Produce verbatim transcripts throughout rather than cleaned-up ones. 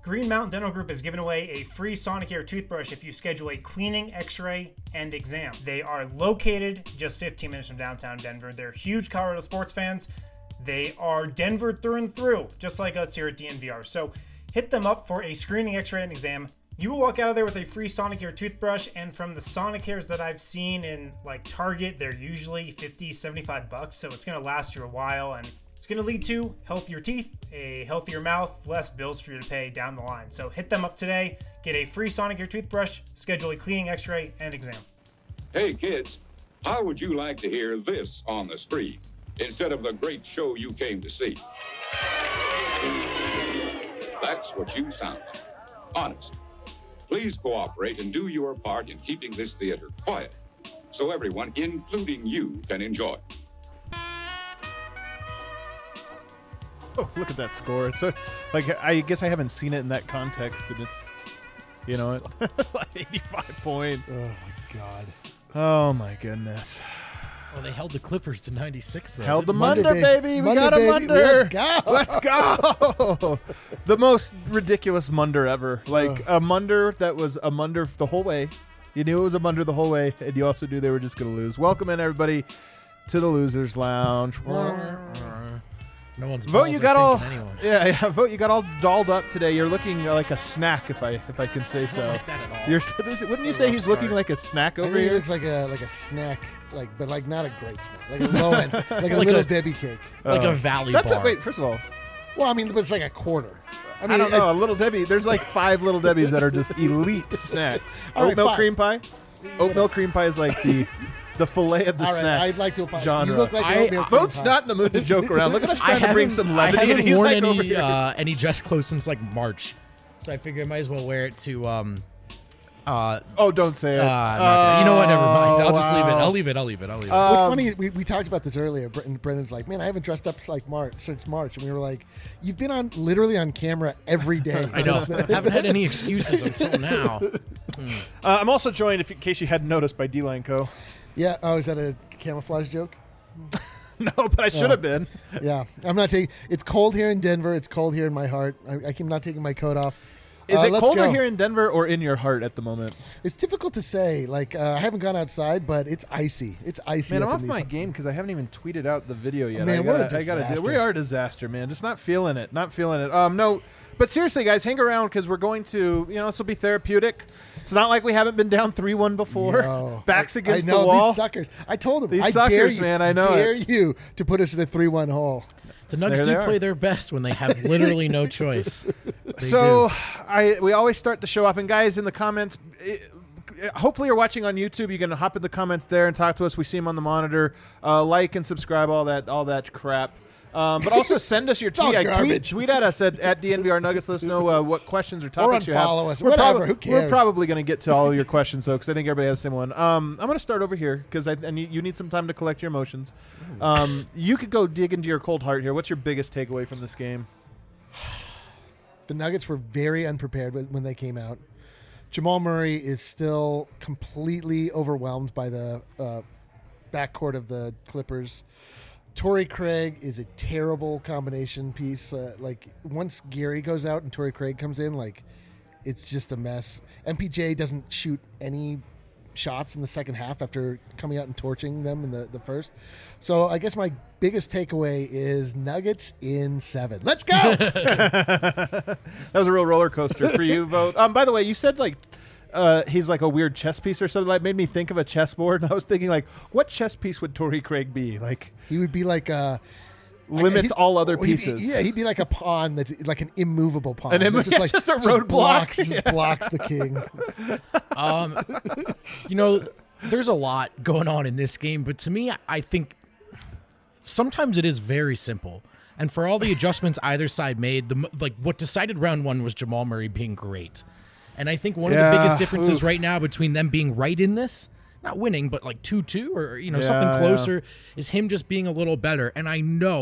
Green Mountain Dental Group is giving away a free Sonicare toothbrush if you schedule a cleaning, x-ray, and exam. They are located just fifteen minutes from downtown Denver. They're huge Colorado sports fans. They are Denver through and through, just like us here at D N V R. So hit them up for a screening, x-ray, and exam. You will walk out of there with a free Sonicare toothbrush, and from the Sonicares that I've seen in like Target, they're usually fifty, seventy-five bucks, so it's going to last you a while, and it's going to lead to healthier teeth, a healthier mouth, less bills for you to pay down the line. So hit them up today, get a free Sonicare toothbrush, schedule a cleaning, x-ray, and exam. Hey kids, how would you like to hear this on the street instead of the great show you came to see? That's what you sound like. Honest. Please cooperate and do your part in keeping this theater quiet so everyone, including you, can enjoy. Oh, look at that score. It's so, like, I guess I haven't seen it in that context, and it's, you know, it's like eighty-five points. Oh, my God. Oh, my goodness. Well, they held the Clippers to ninety-six, though. Held the Munder, Munder, baby. baby. We Munder, got a baby. Munder. Let's go. Let's go. The most ridiculous Munder ever. Like, a Munder that was a Munder the whole way. You knew it was a Munder the whole way, and you also knew they were just going to lose. Welcome in, everybody, to the Losers Lounge. No one's Vote you got all anyone. yeah, yeah vote you got all dolled up today. You're looking like a snack, if I if I can say so. I don't like that at all. You're wouldn't you a say rough he's looking start. like a snack I over think he here? looks like a like a snack, like but like not a great snack, like a low end, like a Like little a- Debbie cake. Like Oh. a Valley That's bar. a, wait. First of all, Well, I mean, but it's like a quarter. I I, mean, don't know. A little Debbie. There's like five little Debbies that are just elite snacks. All right, Oatmeal fine. cream pie. Oatmeal cream pie is like the the fillet of the all right, snack. I'd like to apologize. genre. You look like I- an oatmeal cream Vote's pie. not in the mood to joke around. Look at us I trying to bring haven't- some I levity, and haven't he's worn like over any here. uh, any dress clothes since like March, so I figure I might as well wear it to. Um, uh, Oh, don't say it. uh, I'm not gonna- you know what? Never mind. I'll just leave it. wow. I'll leave it. I'll leave it. I'll leave it. Uh, What's Um, funny, we, we talked about this earlier. Brendan, Brendan's like, man, I haven't dressed up like March since March, and we were like, you've been on literally on camera every day. I know. since then. Haven't had any excuses until now. Uh, I'm also joined, if in case you hadn't noticed, by D-Line Co. Yeah. Oh, is that a camouflage joke? No, but I should Oh. have been. Yeah. I'm not taking. It's cold here in Denver. It's cold here in my heart. I, I'm not taking my coat off. Is Uh, it let's colder go. here in Denver or in your heart at the moment? It's difficult to say. Like uh, I haven't gone outside, but it's icy. It's icy. Man, up I'm in off these- my game because I haven't even tweeted out the video yet. Man, I we're a gotta, I gotta do, disaster. we are a disaster, man. Just not feeling it. Not feeling it. Um, no, but seriously, guys, hang around because we're going to, you know, this will be therapeutic. It's not like we haven't been down three one before. Yo, Backs I- against I know, the wall. These suckers. I told them. These I suckers, dare you, man, I know Dare it. you to put us in a three-one hole. The Nugs There do they play are. their best when they have literally no choice. They So do. I we always start the show off, and guys in the comments, it, hopefully you're watching on YouTube. You can hop in the comments there and talk to us. We see them on the monitor. Uh, like and subscribe, all that, all that crap. Um, but also send us your all tweet. I tweet. garbage. Tweet at us at, at D N V R Nuggets. Let us know uh, what questions or topics you have. unfollow us. We're Whatever. prob- Who We're cares? probably going to get to all your questions though, because I think everybody has the same one. Um, I'm going to start over here because I and you, you need some time to collect your emotions. Um, you could go dig into your cold heart here. What's your biggest takeaway from this game? The Nuggets were very unprepared when when they came out. Jamal Murray is still completely overwhelmed by the uh, backcourt of the Clippers. Torrey Craig is a terrible combination piece. Uh, like once Gary goes out and Torrey Craig comes in, like it's just a mess. M P J doesn't shoot any shots in the second half after coming out and torching them in the, the first. So I guess my biggest takeaway is Nuggets in seven. Let's go! That was a real roller coaster for you, Vote. Um, by the way, you said like uh, he's like a weird chess piece or something. That made me think of a chessboard, and I was thinking like, what chess piece would Torrey Craig be? Like He would be like a limits he'd- all other well, he'd be- pieces. yeah, he'd be like a pawn that's like an immovable pawn. An that immo- yeah, just a roadblock. blocks, just Yeah. blocks the king. Um, you know, there's a lot going on in this game, but to me, I think sometimes it is very simple. And for all the adjustments either side made, the m- like what decided round one was Jamal Murray being great. And I think one of Yeah, the biggest differences oof. right now between them being right in this, not winning, but like two two or you know Yeah, something yeah. closer, is him just being a little better. And I know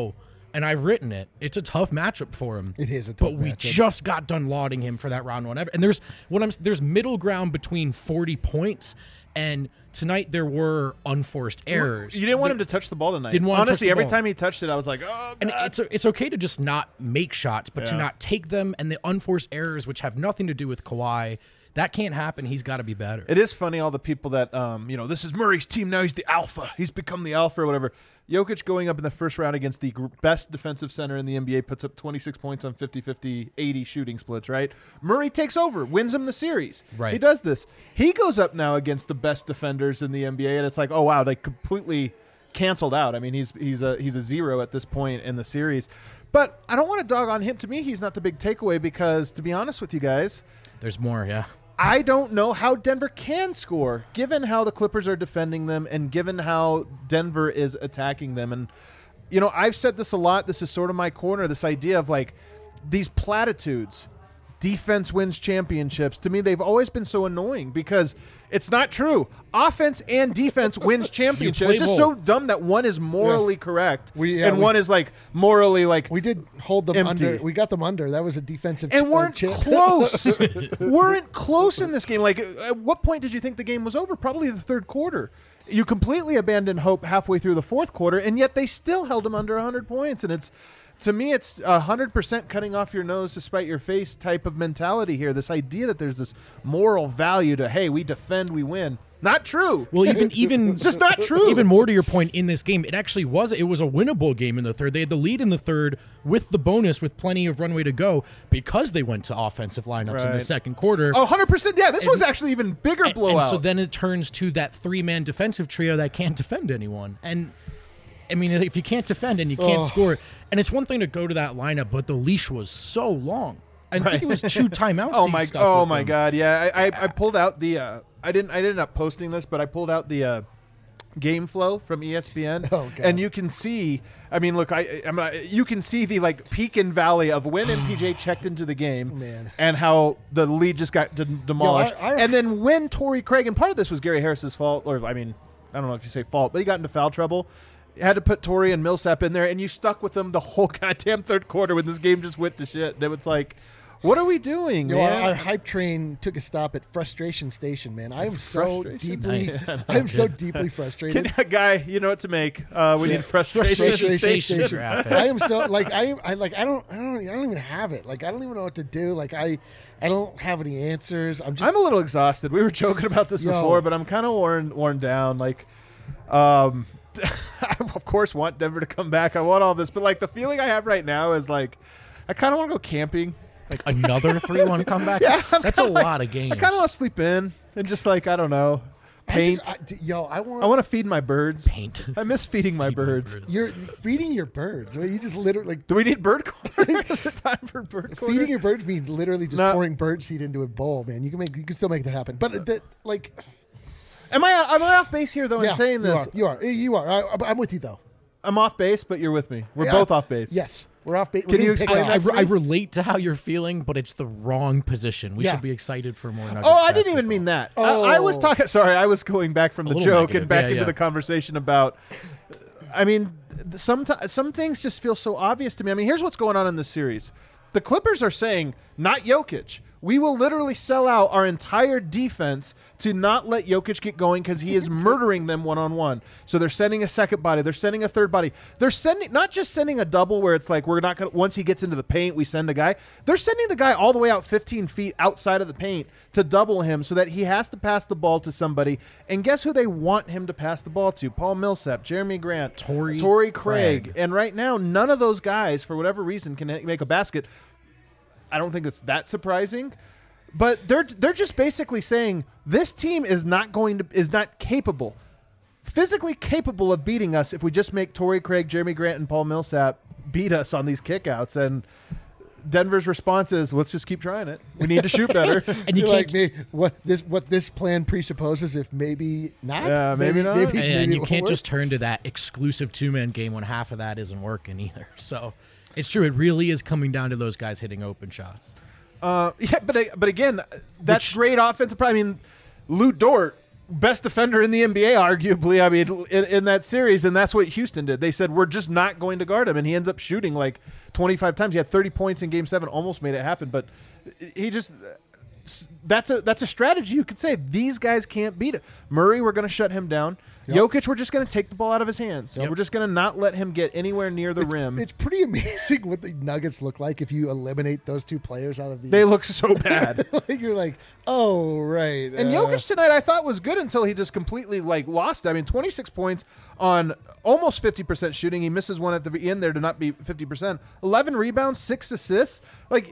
and I've written it. It's a tough matchup for him. It is a tough But we matchup. just got done lauding him for that round one. And there's what I'm there's middle ground between forty points, and tonight there were unforced errors. You didn't want him to touch the ball tonight. Didn't want him to touch Honestly, the every ball. time he touched it, I was like, oh, God. And it's it's okay to just not make shots, but to Yeah. not take them, and the unforced errors, which have nothing to do with Kawhi, that can't happen. He's got to be better. It is funny, all the people that, um, you know, this is Murray's team now. He's the alpha. He's become the alpha or whatever. Jokic going up in the first round against the gr- best defensive center in the N B A, puts up twenty-six points on fifty fifty, eighty shooting splits, right? Murray takes over, wins him the series. Right. He does this. He goes up now against the best defenders in the N B A, and it's like, oh, wow, they completely canceled out. I mean, he's he's a, he's a zero at this point in the series. But I don't want to dog on him. To me, he's not the big takeaway because, to be honest with you guys, There's more, yeah. I don't know how Denver can score, given how the Clippers are defending them and given how Denver is attacking them. And, you know, I've said this a lot. This is sort of my corner, this idea of, like, these platitudes. Defense wins championships. To me, they've always been so annoying because it's not true. Offense and defense wins championships. play It's just both. so dumb that one is morally correct We- yeah, and we- one is, like, morally, like, We did hold them Empty. under. We got them under. That was a defensive and ch- uh, weren't chip. close. weren't close in this game. Like, at what point did you think the game was over? Probably the third quarter. You completely abandoned hope halfway through the fourth quarter, and yet they still held them under one hundred points. And it's, to me, it's one hundred percent cutting off your nose to spite your face type of mentality here. This idea that there's this moral value to, hey, we defend, we win. Not true. Well, even even It's just not true. Even more to your point, in this game, it actually was it was a winnable game in the third. They had the lead in the third with the bonus, with plenty of runway to go, because they went to offensive lineups in the Right. second quarter. Oh, one hundred percent. Yeah, this was actually even bigger And- blowout. And so then it turns to that three-man defensive trio that can't defend anyone. And I mean, if you can't defend and you can't Oh. score, and it's one thing to go to that lineup, but the leash was so long. I Right. think it was two timeouts. Oh he my! stuck Oh with my them. God! Yeah, I, I I pulled out the. Uh, I didn't. I didn't end up posting this, but I pulled out the uh, game flow from E S P N, Oh, God. and you can see. I mean, look, I I'm not, you can see the like peak and valley of when M P J checked into the game, Man. and how the lead just got de- demolished, Yo, I- I- and then when Torrey Craig, and part of this was Gary Harris's fault, or I mean, I don't know if you say fault, but he got into foul trouble. You had to put Torrey and Millsap in there, and you stuck with them the whole goddamn third quarter when this game just went to shit. And it was like, what are we doing, You know, man? our, our hype train took a stop at Frustration Station, man. I am so Frustration? deeply, Nice. I am so deeply frustrated. Can, guy, you know what to make. Uh, we Yeah. need frustration, Frustration station. Station. Graphic. I am so like I, I like I don't I don't I don't even have it. Like I don't even know what to do. Like I I don't have any answers. I'm just I'm a little exhausted. We were joking about this Yo. before, but I'm kind of worn worn down. Like, um, I of course want Denver to come back. I want all this, but like the feeling I have right now is like I kind of want to go camping. Like another three one comeback? Yeah, I'm That's a kinda like- lot of games. I kind of want to sleep in and just like I don't know, I paint. just- I- d- yo, I want I want to feed my birds. paint. I miss feeding my Feed my birds. birds. you're feeding your birds. Right? You just literally like Do we need bird corner? Is it time for bird corner? feeding your birds means literally just No. pouring bird seed into a bowl, man. You can make you can still make that happen. But the, like Am I am I off base here though yeah, in saying this? you are. You are. You are. I, I'm with you though. I'm off base, but you're with me. We're Yeah. both off base. Yes, we're off base. Can you explain I, I, that to I me? relate to how you're feeling, but it's the wrong position. We Yeah. should be excited for more Nuggets Oh, I didn't even basketball. mean that. I, I was Oh. talking. Sorry, I was going back from the little joke negative. and back Yeah, into yeah. the conversation about. I mean, th- some t- some things just feel so obvious to me. I mean, here's what's going on in this series. The Clippers are saying, not Jokic. We will literally sell out our entire defense to not let Jokic get going because he is murdering them one-on-one. So they're sending a second body. They're sending a third body. They're sending not just sending a double where it's like we're not going to – once he gets into the paint, we send a guy. They're sending the guy all the way out fifteen feet outside of the paint to double him so that he has to pass the ball to somebody. And guess who they want him to pass the ball to? Paul Millsap, Jeremy Grant, Torrey Torrey Craig. Craig. And right now, none of those guys, for whatever reason, can make a basket. I don't think it's that surprising, but they're they're just basically saying this team is not going to is not capable, physically capable of beating us if we just make Torrey Craig, Jeremy Grant, and Paul Millsap beat us on these kickouts. And Denver's response is, let's just keep trying it. We need to shoot better. And you You're can't like me. What this what this plan presupposes? If maybe not. Yeah, maybe not. Maybe, and maybe you it can't won't just turn to that exclusive two-man game when half of that isn't working either. So it's true. It really is coming down to those guys hitting open shots. Uh, yeah, but but again, that's Which- great offensive. I mean, Lou Dort best defender in the N B A, arguably, I mean, in, in that series, and that's what Houston did. They said, we're just not going to guard him, and he ends up shooting like twenty-five times. He had thirty points in Game seven, almost made it happen, but he just – that's a that's a strategy. You could say these guys can't beat it. Murray, we're going to shut him down. Yep. Jokic, we're just going to take the ball out of his hands. Yep. We're just going to not let him get anywhere near the it's, rim. It's pretty amazing what the Nuggets look like if you eliminate those two players out of the. They look so bad. Like you're like, oh right. And uh, Jokic tonight, I thought was good until he just completely like lost. I mean, twenty-six points on almost fifty percent shooting. He misses one at the end there to not be fifty percent. eleven rebounds, six assists. Like.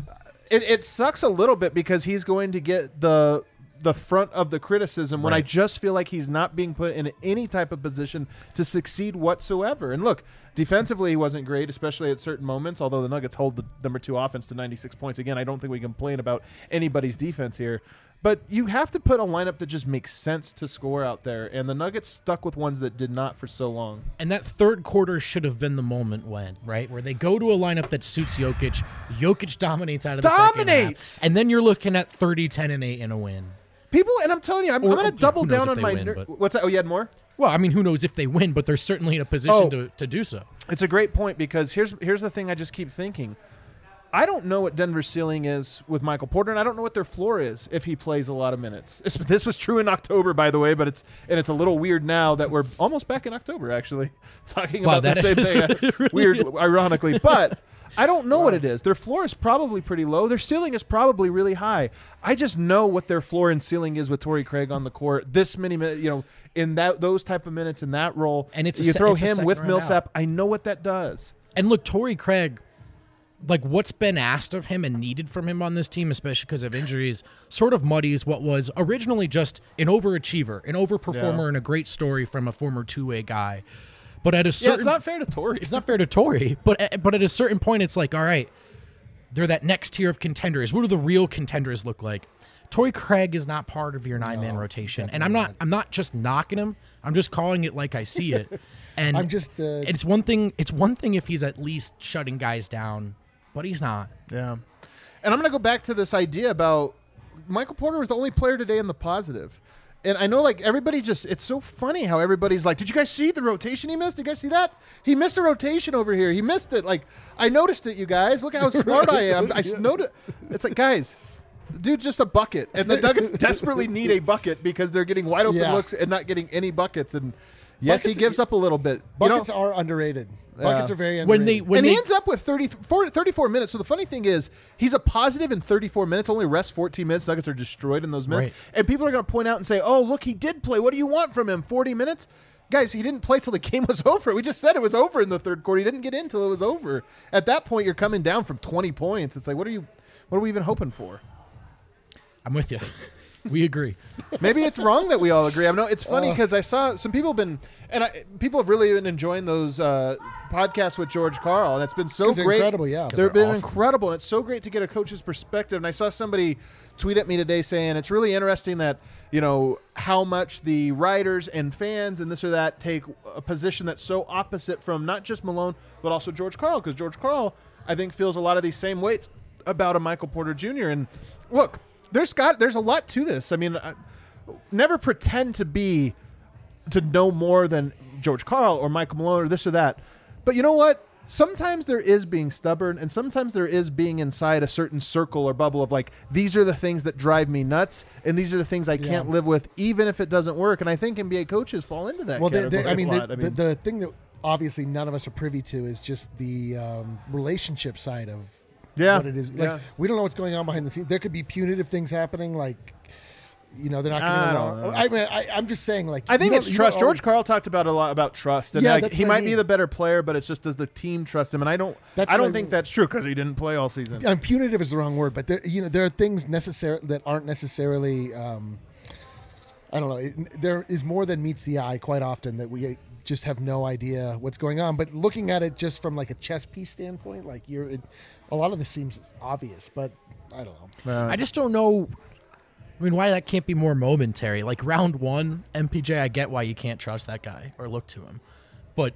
It, it sucks a little bit because he's going to get the the front of the criticism when right. I just feel like he's not being put in any type of position to succeed whatsoever. And look, defensively he wasn't great, especially at certain moments, although the Nuggets hold the number two offense to ninety-six points. Again, I don't think we complain about anybody's defense here. But you have to put a lineup that just makes sense to score out there, and the Nuggets stuck with ones that did not for so long. And that third quarter should have been the moment when, right, where they go to a lineup that suits Jokic. Jokic dominates out of the Dominates! second half, and then you're looking at thirty, ten, and eight in a win. People, and I'm telling you, I'm, I'm going to double down on my. Win, ner- what's that? Oh, you had more? Well, I mean, who knows if they win, but they're certainly in a position oh, to, to do so. It's a great point because here's here's the thing I just keep thinking. I don't know what Denver's ceiling is with Michael Porter, and I don't know what their floor is if he plays a lot of minutes. It's, this was true in October, by the way, but it's and it's a little weird now that we're almost back in October, actually, talking wow, about the same thing. Really weird, is. ironically, but I don't know wow. what it is. Their floor is probably pretty low. Their ceiling is probably really high. I just know what their floor and ceiling is with Torrey Craig on the court. This many minutes, you know, in that those type of minutes in that role, and it's you a, throw it's him with Millsap. Out. I know what that does. And look, Torrey Craig. Like what's been asked of him and needed from him on this team, especially because of injuries, sort of muddies what was originally just an overachiever, an overperformer, yeah. and a great story from a former two-way guy. But at a certain, yeah, it's not fair to Torrey. It's not fair to Torrey. But at, but at a certain point, it's like, all right, they're that next tier of contenders. What do the real contenders look like? Torrey Craig is not part of your nine-man no, rotation, and I'm not. not. I'm not just knocking him. I'm just calling it like I see it. And I'm just. Uh, it's one thing. It's one thing if he's at least shutting guys down. But he's not. Yeah. And I'm going to go back to this idea about Michael Porter was the only player today in the positive. And I know, like, everybody just – it's so funny how everybody's like, did you guys see the rotation he missed? Did you guys see that? He missed a rotation over here. He missed it. Like, I noticed it, you guys. Look how smart I am. I noticed. It's like, guys, dude's just a bucket. And the Nuggets desperately need a bucket because they're getting wide open yeah. looks and not getting any buckets. And, yes, buckets, he gives up a little bit. Buckets you know, are underrated. Buckets yeah. are very underrated. When they, when and they, he ends up with thirty, forty, thirty-four minutes. So the funny thing is, he's a positive in thirty-four minutes, only rests fourteen minutes. Nuggets are destroyed in those minutes. Right. And people are going to point out and say, oh, look, he did play. What do you want from him? forty minutes? Guys, he didn't play till the game was over. We just said it was over in the third quarter. He didn't get in till it was over. At that point, you're coming down from twenty points. It's like, what are you, what are we even hoping for? I'm with you. We agree. Maybe it's wrong that we all agree. I know it's funny because uh, I saw some people have been, and I, people have really been enjoying those uh, podcasts with George Karl, and it's been so great. Incredible, yeah. They've they're been awesome. incredible, and it's so great to get a coach's perspective. And I saw somebody tweet at me today saying it's really interesting that, you know, how much the writers and fans and this or that take a position that's so opposite from not just Malone, but also George Karl, because George Karl, I think, feels a lot of these same weights about a Michael Porter Junior And look, there's got there's a lot to this. I mean, I, never pretend to be to know more than George Karl or Michael Malone or this or that. But you know what? Sometimes there is being stubborn, and sometimes there is being inside a certain circle or bubble of like, these are the things that drive me nuts, and these are the things I yeah. can't live with, even if it doesn't work. And I think N B A coaches fall into that. Well, they, category they, I, mean, a lot. the, I mean, the, the thing that obviously none of us are privy to is just the um, relationship side of yeah, what it is. Like, yeah. we don't know what's going on behind the scenes. There could be punitive things happening, like, you know, they're not I getting don't along. know. I mean, I, I'm just saying, like, I think you it's don't- you trust. don't George always- Karl talked about a lot about trust, and Yeah, like, that's he what I might be mean. the better player, but it's just does the team trust him? And I don't. That's I what don't I think mean. that's true because he didn't play all season. And punitive is the wrong word, but there, you know, there are things necessary that aren't necessarily. Um, I don't know. It, there is more than meets the eye quite often that we just have no idea what's going on. But looking at it just from like a chess piece standpoint, like you're, it, a lot of this seems obvious, but I don't know. Uh, I just don't know. I mean, why that can't be more momentary? Like round one, M P J, I get why you can't trust that guy or look to him, but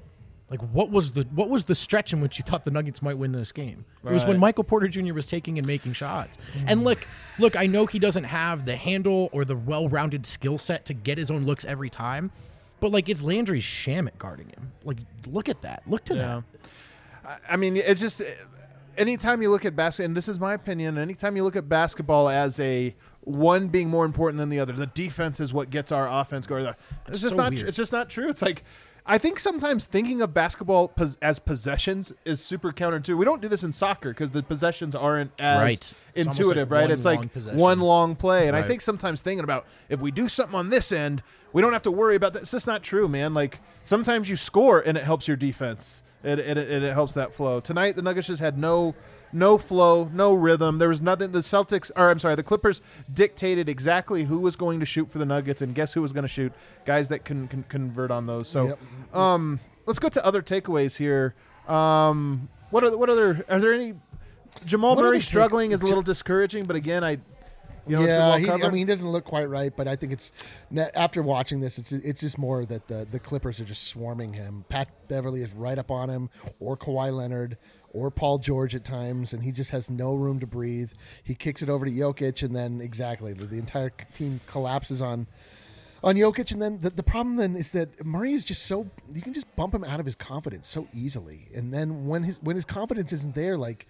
Like, what was the what was the stretch in which you thought the Nuggets might win this game? It was when Right. Michael Porter Junior was taking and making shots. And look, look, I know he doesn't have the handle or the well-rounded skill set to get his own looks every time, but like it's Landry Shamet guarding him. Like, look at that. Look to Yeah. that. I mean, it's just anytime you look at basketball, and this is my opinion, anytime you look at basketball as a one being more important than the other, the defense is what gets our offense going. It's It's just so not. weird. It's just not true. It's like I think sometimes thinking of basketball pos- as possessions is super counterintuitive. We don't do this in soccer because the possessions aren't as Right. It's almost intuitive, like right? one It's like long possession. one long play, and I Right. think sometimes thinking about if we do something on this end, we don't have to worry about that. It's just not true, man. Like sometimes you score and it helps your defense. It it, it, it helps that flow. Tonight the Nuggets just had no no flow, no rhythm. There was nothing. The Celtics, or I'm sorry, the Clippers dictated exactly who was going to shoot for the Nuggets, and guess who was going to shoot? Guys that can, can convert on those. So, Yep. um, let's go to other takeaways here. Um, what are what other? Are there any? Jamal What are Murray the take- struggling is a little discouraging, but again, I. You know, it's been yeah, well he, I covered. mean, he doesn't look quite right, but I think it's after watching this, it's it's just more that the, the Clippers are just swarming him. Pat Beverly is right up on him, or Kawhi Leonard, or Paul George at times, and he just has no room to breathe. He kicks it over to Jokic, and then exactly the, the entire team collapses on on Jokic. And then the, the problem then is that Murray is just so you can just bump him out of his confidence so easily, and then when his when his confidence isn't there, like.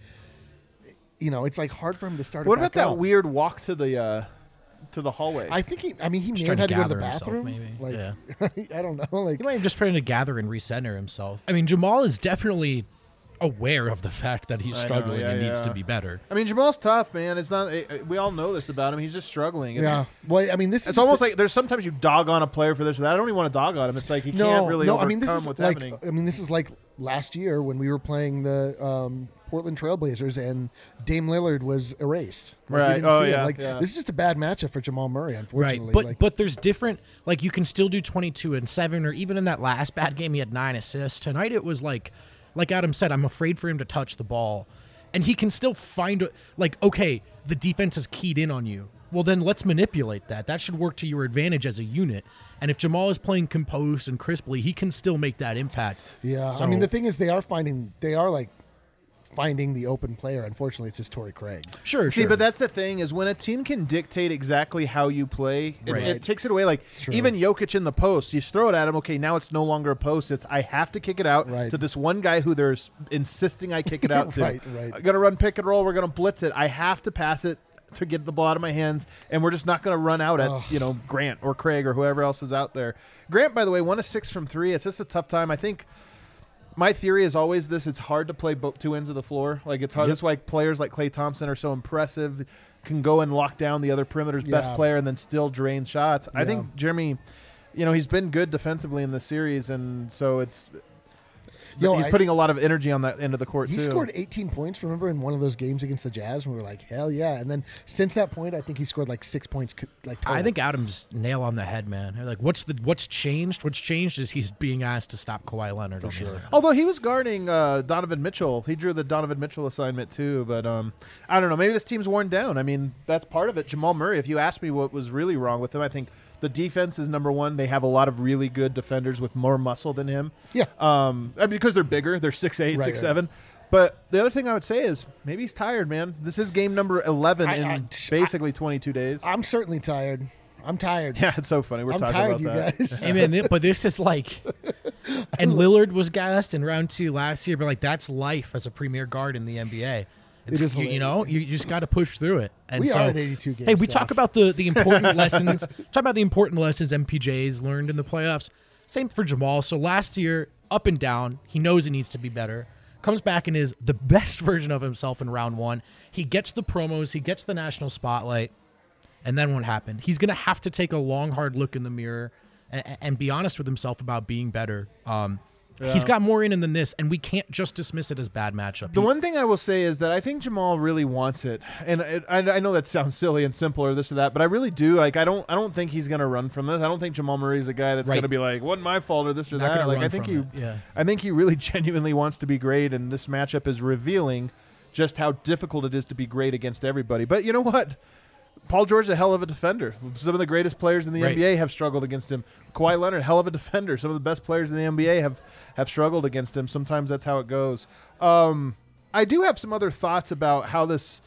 You know, it's like hard for him to start. What it about back that up. weird walk to the uh, to the hallway? I think he. I mean, he may trying have to had to go to the gather himself, bathroom. maybe. Like, I don't know. Like, He might have just trying to gather and recenter himself. I mean, Jamal is definitely aware of the fact that he's I know, struggling yeah, and needs yeah. to be better. I mean, Jamal's tough, man. It's not. It, we all know this about him. He's just struggling. It's, yeah. Well, I mean, this is It's just almost a- like there's sometimes you dog on a player for this or that. I don't even want to dog on him. It's like he no, can't really no. overcome I mean, this is what's like. happening. I mean, this is like last year when we were playing the um, Portland Trailblazers and Dame Lillard was erased. Like, we Right. didn't Oh, see him. yeah, Like yeah. this is just a bad matchup for Jamal Murray, unfortunately. Right, but like, but there's different. Like you can still do twenty-two and seven, or even in that last bad game, he had nine assists. Tonight it was like, like Adam said, I'm afraid for him to touch the ball, and he can still find a- like okay, the defense is keyed in on you. Well, then let's manipulate that. That should work to your advantage as a unit. And if Jamal is playing composed and crisply, he can still make that impact. yeah. So- I mean, the thing is, they are finding. They are like finding the open player. Unfortunately, it's just Torrey Craig. Sure, See, sure. but that's the thing is when a team can dictate exactly how you play, it, Right. it takes it away. Like true. even Jokic in the post, you throw it at him. Okay, now it's no longer a post. It's I have to kick it out Right. to this one guy who they're s- insisting I kick it out to. Right, right. I'm gonna run pick and roll. We're gonna blitz it. I have to pass it to get the ball out of my hands, and we're just not gonna run out at Ugh. you know Grant or Craig or whoever else is out there. Grant, by the way, one of six from three. It's just a tough time. I think. My theory is always this: it's hard to play both two ends of the floor. Like it's hard. Yep. That's why players like Klay Thompson are so impressive. Can go and lock down the other perimeter's best Yeah. player and then still drain shots. I Yeah. think Jeremy, you know, he's been good defensively in this series, and so it's Yo, he's I- putting a lot of energy on that end of the court He too. scored eighteen points, remember, in one of those games against the Jazz, and we were like, hell yeah. And then since that point, I think he scored like six points. c- Like total. I think Adam's nail on the head, man. Like, what's the what's changed? What's changed is he's being asked to stop Kawhi Leonard. For sure. Although he was guarding uh, Donovan Mitchell, he drew the Donovan Mitchell assignment too. But um, I don't know. Maybe this team's worn down. I mean, that's part of it. Jamal Murray. If you ask me what was really wrong with him, I think the defense is number one. They have a lot of really good defenders with more muscle than him. Yeah. Um, I mean, because they're bigger, they're six eight, Right, six right. seven. But the other thing I would say is maybe he's tired, man. This is game number eleven I- in I- basically twenty-two days. I'm certainly tired. I'm tired. Yeah, it's so funny. We're I'm talking tired, about you that. guys. Hey man, thi- but this is like, and Lillard was gassed in round two last year, but like that's life as a premier guard in the N B A. It's, is you, you hilarious. know, you, you just got to push through it. And We so, are at eighty-two games, Hey, we Steph. talk about the the important lessons. Talk about the important lessons M P J's learned in the playoffs. Same for Jamal. So last year, up and down, he knows he needs to be better. Comes back and is the best version of himself in round one. He gets the promos, he gets the national spotlight. And then what happened? He's going to have to take a long, hard look in the mirror and, and be honest with himself about being better. Um, He's got more in him than this, and we can't just dismiss it as bad matchup. The He- one thing I will say is that I think Jamal really wants it, and it, I, I know that sounds silly and simple or this or that, but I really do. Like, I don't, I don't think he's gonna run from this. I don't think Jamal Murray is a guy that's Right. gonna be like, "Wasn't my fault" or this or Not that. gonna Like, I run think from he, it, yeah. I think he really genuinely wants to be great, and this matchup is revealing just how difficult it is to be great against everybody. But you know what? Paul George is a hell of a defender. Some of the greatest players in the Right. N B A have struggled against him. Kawhi Leonard, hell of a defender. Some of the best players in the N B A have, have struggled against him. Sometimes that's how it goes. Um, I do have some other thoughts about how this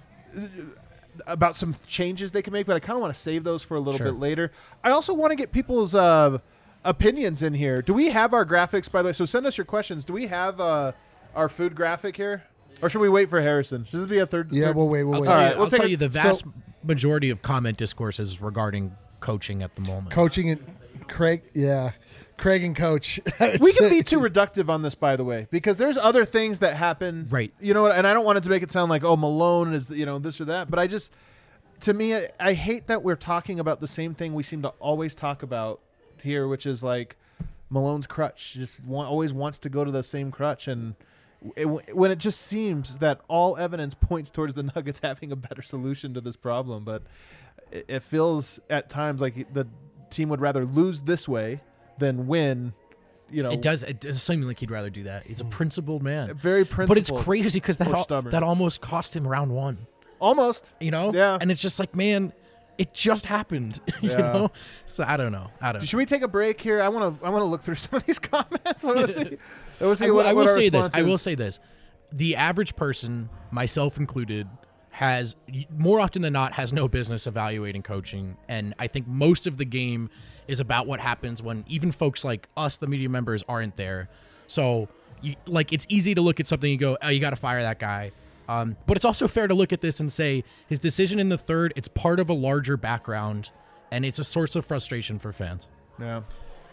about some changes they can make, but I kind of want to save those for a little Sure. bit later. I also want to get people's uh, opinions in here. Do we have our graphics, by the way? So send us your questions. Do we have uh, our food graphic here? Or should we wait for Harrison? Should this be a third? Yeah, third? we'll wait. We'll I'll wait. tell, All you, right, we'll I'll take tell a- you the vast so- majority of comment discourse is regarding coaching at the moment. Coaching and Craig, yeah, Craig and Coach. We can be too reductive on this, by the way, because there's other things that happen. Right. You know what? And I don't want it to make it sound like, oh, Malone is, you know, this or that. But I just, to me, I, I hate that we're talking about the same thing we seem to always talk about here, which is like Malone's crutch. Just want, always wants to go to the same crutch. And it, when it just seems that all evidence points towards the Nuggets having a better solution to this problem. But it, it feels at times like the team would rather lose this way than win. You know, It does. It does seem like he'd rather do that. He's a principled man. very But it's principled crazy because that or al- stubborn. that almost cost him round one. Almost. You know. Yeah. And it's just like, man, it just happened. you Yeah. know. So I don't know. I don't. know. Should we take a break here? I want to. I want to look through some of these comments. I want to see. I want to see I will, what, I will what our say this. response I will is. say this. The average person, myself included, has more often than not has no business evaluating coaching, and I think most of the game is about what happens when even folks like us, the media members, aren't there. So, you, like, it's easy to look at something and go, "Oh, you got to fire that guy." Um, but it's also fair to look at this and say his decision in the third, it's part of a larger background, and it's a source of frustration for fans. Yeah.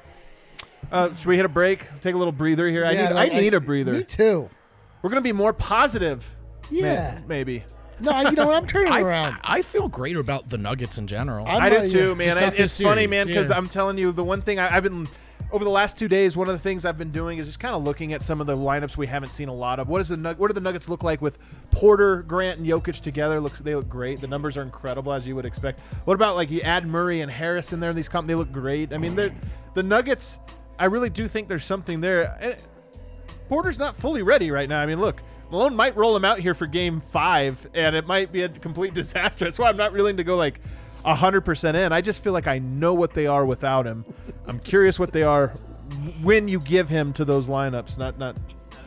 Uh, should we hit a break? Take a little breather here. I Yeah, need. like, I need a breather. Me too. We're gonna be more positive. may- Yeah. maybe. No, you know what? I'm turning I, around. I feel great about the Nuggets in general. I'm I do not- too, yeah. man. Just I, not it's this funny, series, man, because yeah. I'm telling you, the one thing I, I've been over the last two days, one of the things I've been doing is just kind of looking at some of the lineups we haven't seen a lot of. What is the Nug- What do the Nuggets look like with Porter, Grant, and Jokic together? Looks they look great. The numbers are incredible, as you would expect. What about like you add Murray and Harris in there? In these comp, they look great. I mean, they're the Nuggets. I really do think there's something there. And Porter's not fully ready right now. I mean, look. Malone might roll him out here for game five, and it might be a complete disaster. That's why I'm not willing to go like one hundred percent in. I just feel like I know what they are without him. I'm curious what they are when you give him to those lineups. Not not.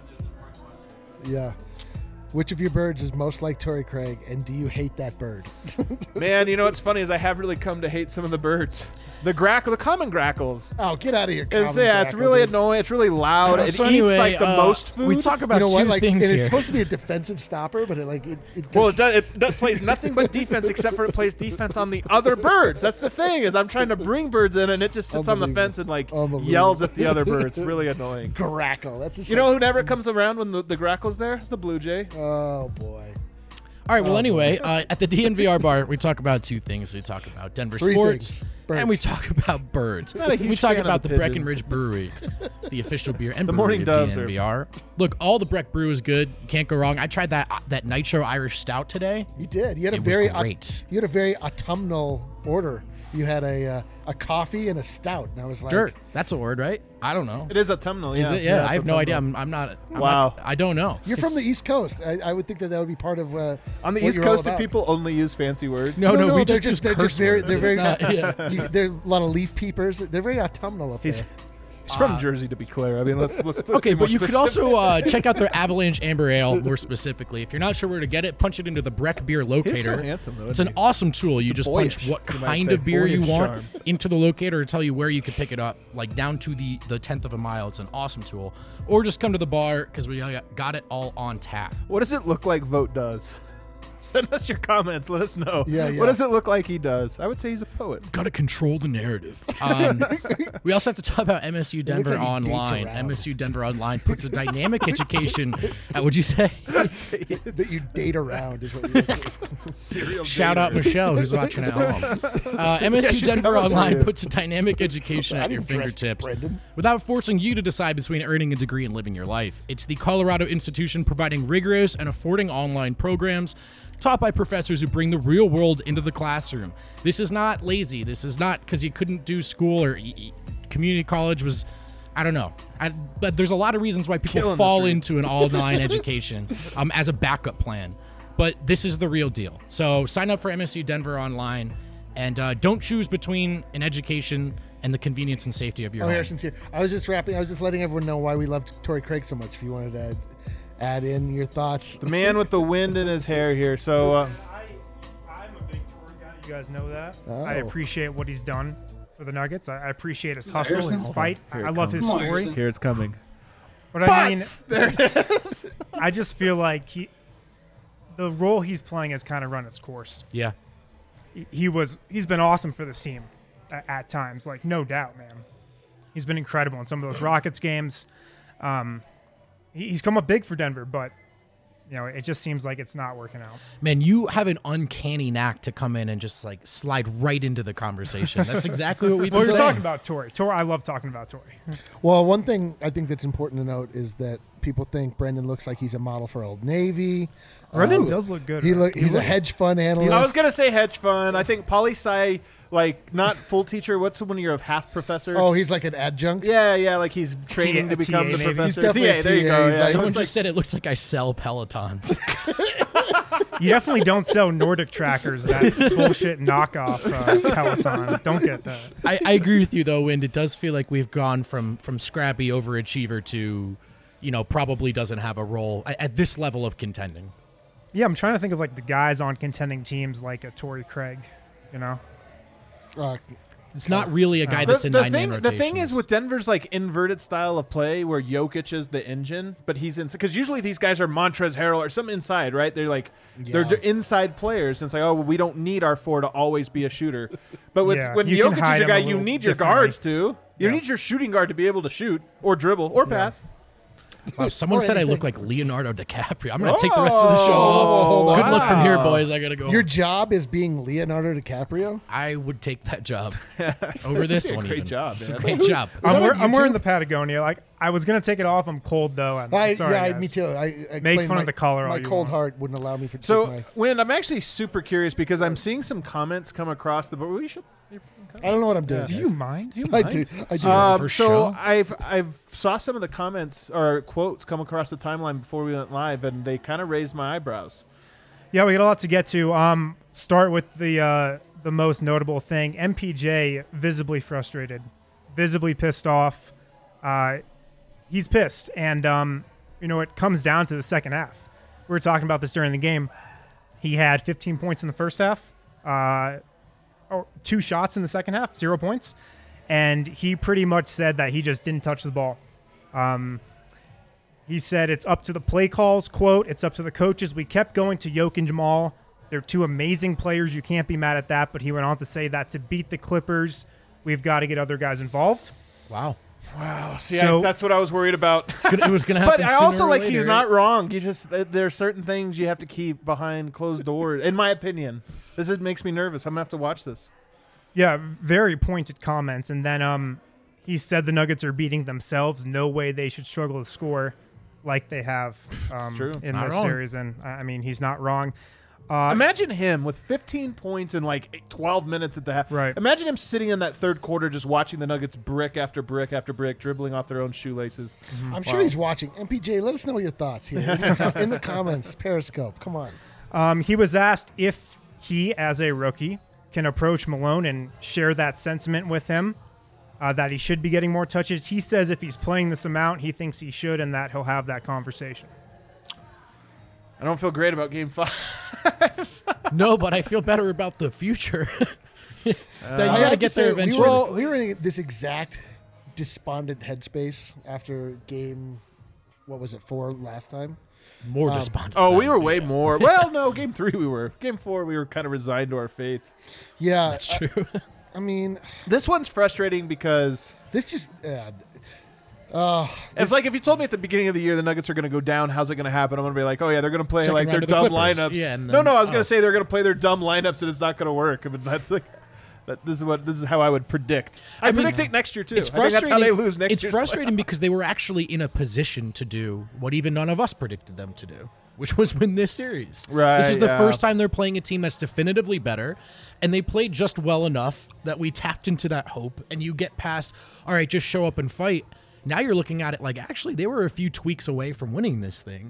Yeah. Which of your birds is most like Torrey Craig, and do you hate that bird? Man, you know what's funny is I have really come to hate some of the birds. The grackle, the common grackles. Oh, get out of here! It's, common yeah, it's grackle, really dude. annoying. It's really loud. It So eats anyway, like the uh, most food. We talk about You know two what? Like, things and here. it's supposed to be a defensive stopper, but it like it. it Well, it, does, it does, plays nothing but defense except for it plays defense on the other birds. That's the thing is I'm trying to bring birds in and it just sits on the Unbelievable. fence and like Unbelievable. yells at the other birds. It's really annoying. grackle. That's just You know who never comes around when the, the grackle's there? The blue jay. Oh boy. All right. Well, Oh, anyway, uh, at the D N V R bar, we talk about two things. We talk about Denver Three sports, things. Birds. and we talk about birds. Not a huge We talk fan of about the the, pigeons. Breckenridge Brewery, the official beer and The brewery Morning of Doves D are- N V R. Look, all the Breck brew is good. You can't go wrong. I tried that that Nitro Irish Stout today. You did. You had a It was very au- great. you had a very autumnal order. You had a uh, a coffee and a stout, and I was like, Dirt. That's a word, right? I don't know. It is autumnal. Is Yeah. it? Yeah, Yeah, I it's have no idea. autumnal. I'm, I'm not. I'm Wow. not- I don't know. You're from the East Coast. I, I would think that that would be part of. Uh, On the what East you're all Coast, do about. people only use fancy words? No, no, no, we they're just, use just- they're curse just very- words. they're It's very- not- yeah. You, there are a lot of leaf peepers. They're very autumnal up He's, there. he's from Jersey, to be clear. I mean, let's let's. Put Okay, it more but you could specific. also uh, check out their Avalanche Amber Ale more specifically. If you're not sure where to get it, punch it into the Breck Beer Locator. handsome, though, It's isn't an he? awesome tool. You just boyish, punch what you might kind say, of beer you boyish want charm. into the locator to tell you where you can pick it up, like down to the, the tenth of a mile. It's an awesome tool. Or just come to the bar because we got it all on tap. What does it look like Vote does? Send us your comments. Let us know. Yeah, yeah. What does it look like he does? I would say he's a poet. Got to control the narrative. Um, we also have to talk about M S U Denver like he dates Online. around. M S U Denver Online puts a dynamic education. At, would you say? that you date around is what you're Serial Shout out Michelle, who's watching at home. Uh, M S U she's Denver coming for Online you. puts a dynamic education at I'm your impressed, fingertips Brendan. without forcing you to decide between earning a degree and living your life. It's the Colorado institution providing rigorous and affording online programs taught by professors who bring the real world into the classroom. This is not lazy. This is not because you couldn't do school or e- e- community college was, I don't know. I, but there's a lot of reasons why people Killing the fall street. into an online education um, as a backup plan. but this is the real deal. So sign up for M S U Denver online, and uh, don't choose between an education and the convenience and safety of your Oh, home. Harrison's here. I was just wrapping. I was just letting everyone know why we loved Torrey Craig so much. If you wanted to add in your thoughts. The man with the wind in his hair here. So uh, I, I'm a big Torrey guy. You guys know that. Oh. I appreciate what he's done for the Nuggets. I, I appreciate his hustle, his Harrison? fight. Here I it love his comes. story. here it's coming. But I mean, There it is. I just feel like he, the role he's playing has kind of run its course. Yeah. He, he was, he's been awesome for this team at, at times, like no doubt, man. He's been incredible in some of those Rockets games. Um, he, he's come up big for Denver, but you know, it just seems like it's not working out. Man, you have an uncanny knack to come in and just like slide right into the conversation. That's exactly what we've been Well, you're saying. talking about Torrey. Torrey, I love talking about Torrey. Well, one thing I think that's important to note is that people think Brendan looks like he's a model for Old Navy. Brendan Uh, does look good. He right? look. He's a looks- hedge fund analyst. I was gonna say hedge fund. I think poli sci, like not full teacher. What's when you're a half professor? Oh, he's like an adjunct. yeah, yeah. Like he's training T A to become T A the maybe. professor. He's definitely a T A, there you T A. go. He's Yeah. like- Someone It's just said it looks like I sell Pelotons. You definitely don't sell Nordic trackers, that bullshit knockoff uh, Peloton. Don't get that. I, I agree with you though, Wind. It does feel like we've gone from from scrappy overachiever to, you know, probably doesn't have a role at, at this level of contending. Yeah, I'm trying to think of like the guys on contending teams like a Torrey Craig, you know? Uh, It's not really a guy The, that's in the nine thing, man the thing is rotations. with Denver's like inverted style of play, where Jokic is the engine, but he's in because usually these guys are Montrezl Harrell or something inside, right? They're like they're Yeah. d- inside players, and it's like, oh, well, we don't need our four to always be a shooter. But with, Yeah, when you can Jokic hide is your him guy, a you little need your differently. guards too. You Yeah. need your shooting guard to be able to shoot or dribble or pass. Wow, someone Or said I anything. look like Leonardo DiCaprio. I'm gonna take the rest of the show Oh, off. Good luck from here, wow. boys. I gotta go. your job is being Leonardo DiCaprio. I would take that job over this a one. great even. job, It's a man. great job. I'm, that wear, on I'm wearing YouTube? the Patagonia. Like I was gonna take it off. I'm cold though. I'm, I, sorry, yeah, I- guys. me too. I, I Make explained fun of my- the color all My you cold want. heart wouldn't allow me for to So, take my. Win, I'm actually super curious because I'm seeing some comments come across the board. We should. I don't know what I'm doing. Do guys. you mind? Do you I mind? do. I do. Um, first so show? I've I've saw some of the comments or quotes come across the timeline before we went live, and they kind of raised my eyebrows. Yeah, we got a lot to get to. Um, start with the uh, the most notable thing. M P J visibly frustrated, visibly pissed off. Uh, he's pissed, and um, you know it comes down to the second half. We were talking about this during the game. He had fifteen points in the first half, uh, or two shots in the second half, zero points, and he pretty much said that he just didn't touch the ball. Um, He said it's up to the play calls, quote, it's up to the coaches. We kept going to Jokic and Jamal. They're two amazing players. You can't be mad at that. But he went on to say that to beat the Clippers, we've got to get other guys involved. Wow. Wow, see, So- I, that's what I was worried about. It was gonna But happen. I sooner also or like later, he's right? not wrong. You just th- there are certain things you have to keep behind closed doors. In my opinion, this is, makes me nervous. I'm gonna have to watch this. Yeah, very pointed comments. And then um, he said the Nuggets are beating themselves. No way they should struggle to score like they have um, true. It's in not this wrong. series. And I I mean, he's not wrong. Uh, Imagine him with fifteen points in like eight- twelve minutes at the half. Right. Imagine him sitting in that third quarter just watching the Nuggets brick after brick after brick, dribbling off their own shoelaces. I'm sure he's watching. M P J, let us know your thoughts here in the, co- in the comments. Periscope, come on. Um, he was asked if he, as a rookie, can approach Malone and share that sentiment with him, uh, that he should be getting more touches. He says if he's playing this amount, he thinks he should, and that he'll have that conversation. I don't feel great about Game Five. No, but I feel better about the future. That you I gotta have to get say, there we eventually. were, we were in this exact despondent headspace after game, what was it, four last time? More um, despondent. Oh, we now. were way more. Well, no, Game Three we were. Game Four we were kind of resigned to our fate. Yeah, That's I, true. I mean, This one's frustrating because this just. Uh, uh, it's like if you told me at the beginning of the year the Nuggets are going to go down, how's it going to happen? I'm going to be like, oh yeah, they're going to play Second like their round of the dumb Clippers. lineups. Yeah, and no, then- no, I was going oh. to say they're going to play their dumb lineups and it's not going to work. I mean, that's like that. This is what this is how I would predict. I, I mean, predict it next year too. It's I think that's frustrating. how they lose next it's year. frustrating because they were actually in a position to do what even none of us predicted them to do, which was win this series. Right, This is the yeah. first time they're playing a team that's definitively better, and they played just well enough that we tapped into that hope. And you get past, all right, just show up and fight. Now you're looking at it like actually they were a few tweaks away from winning this thing.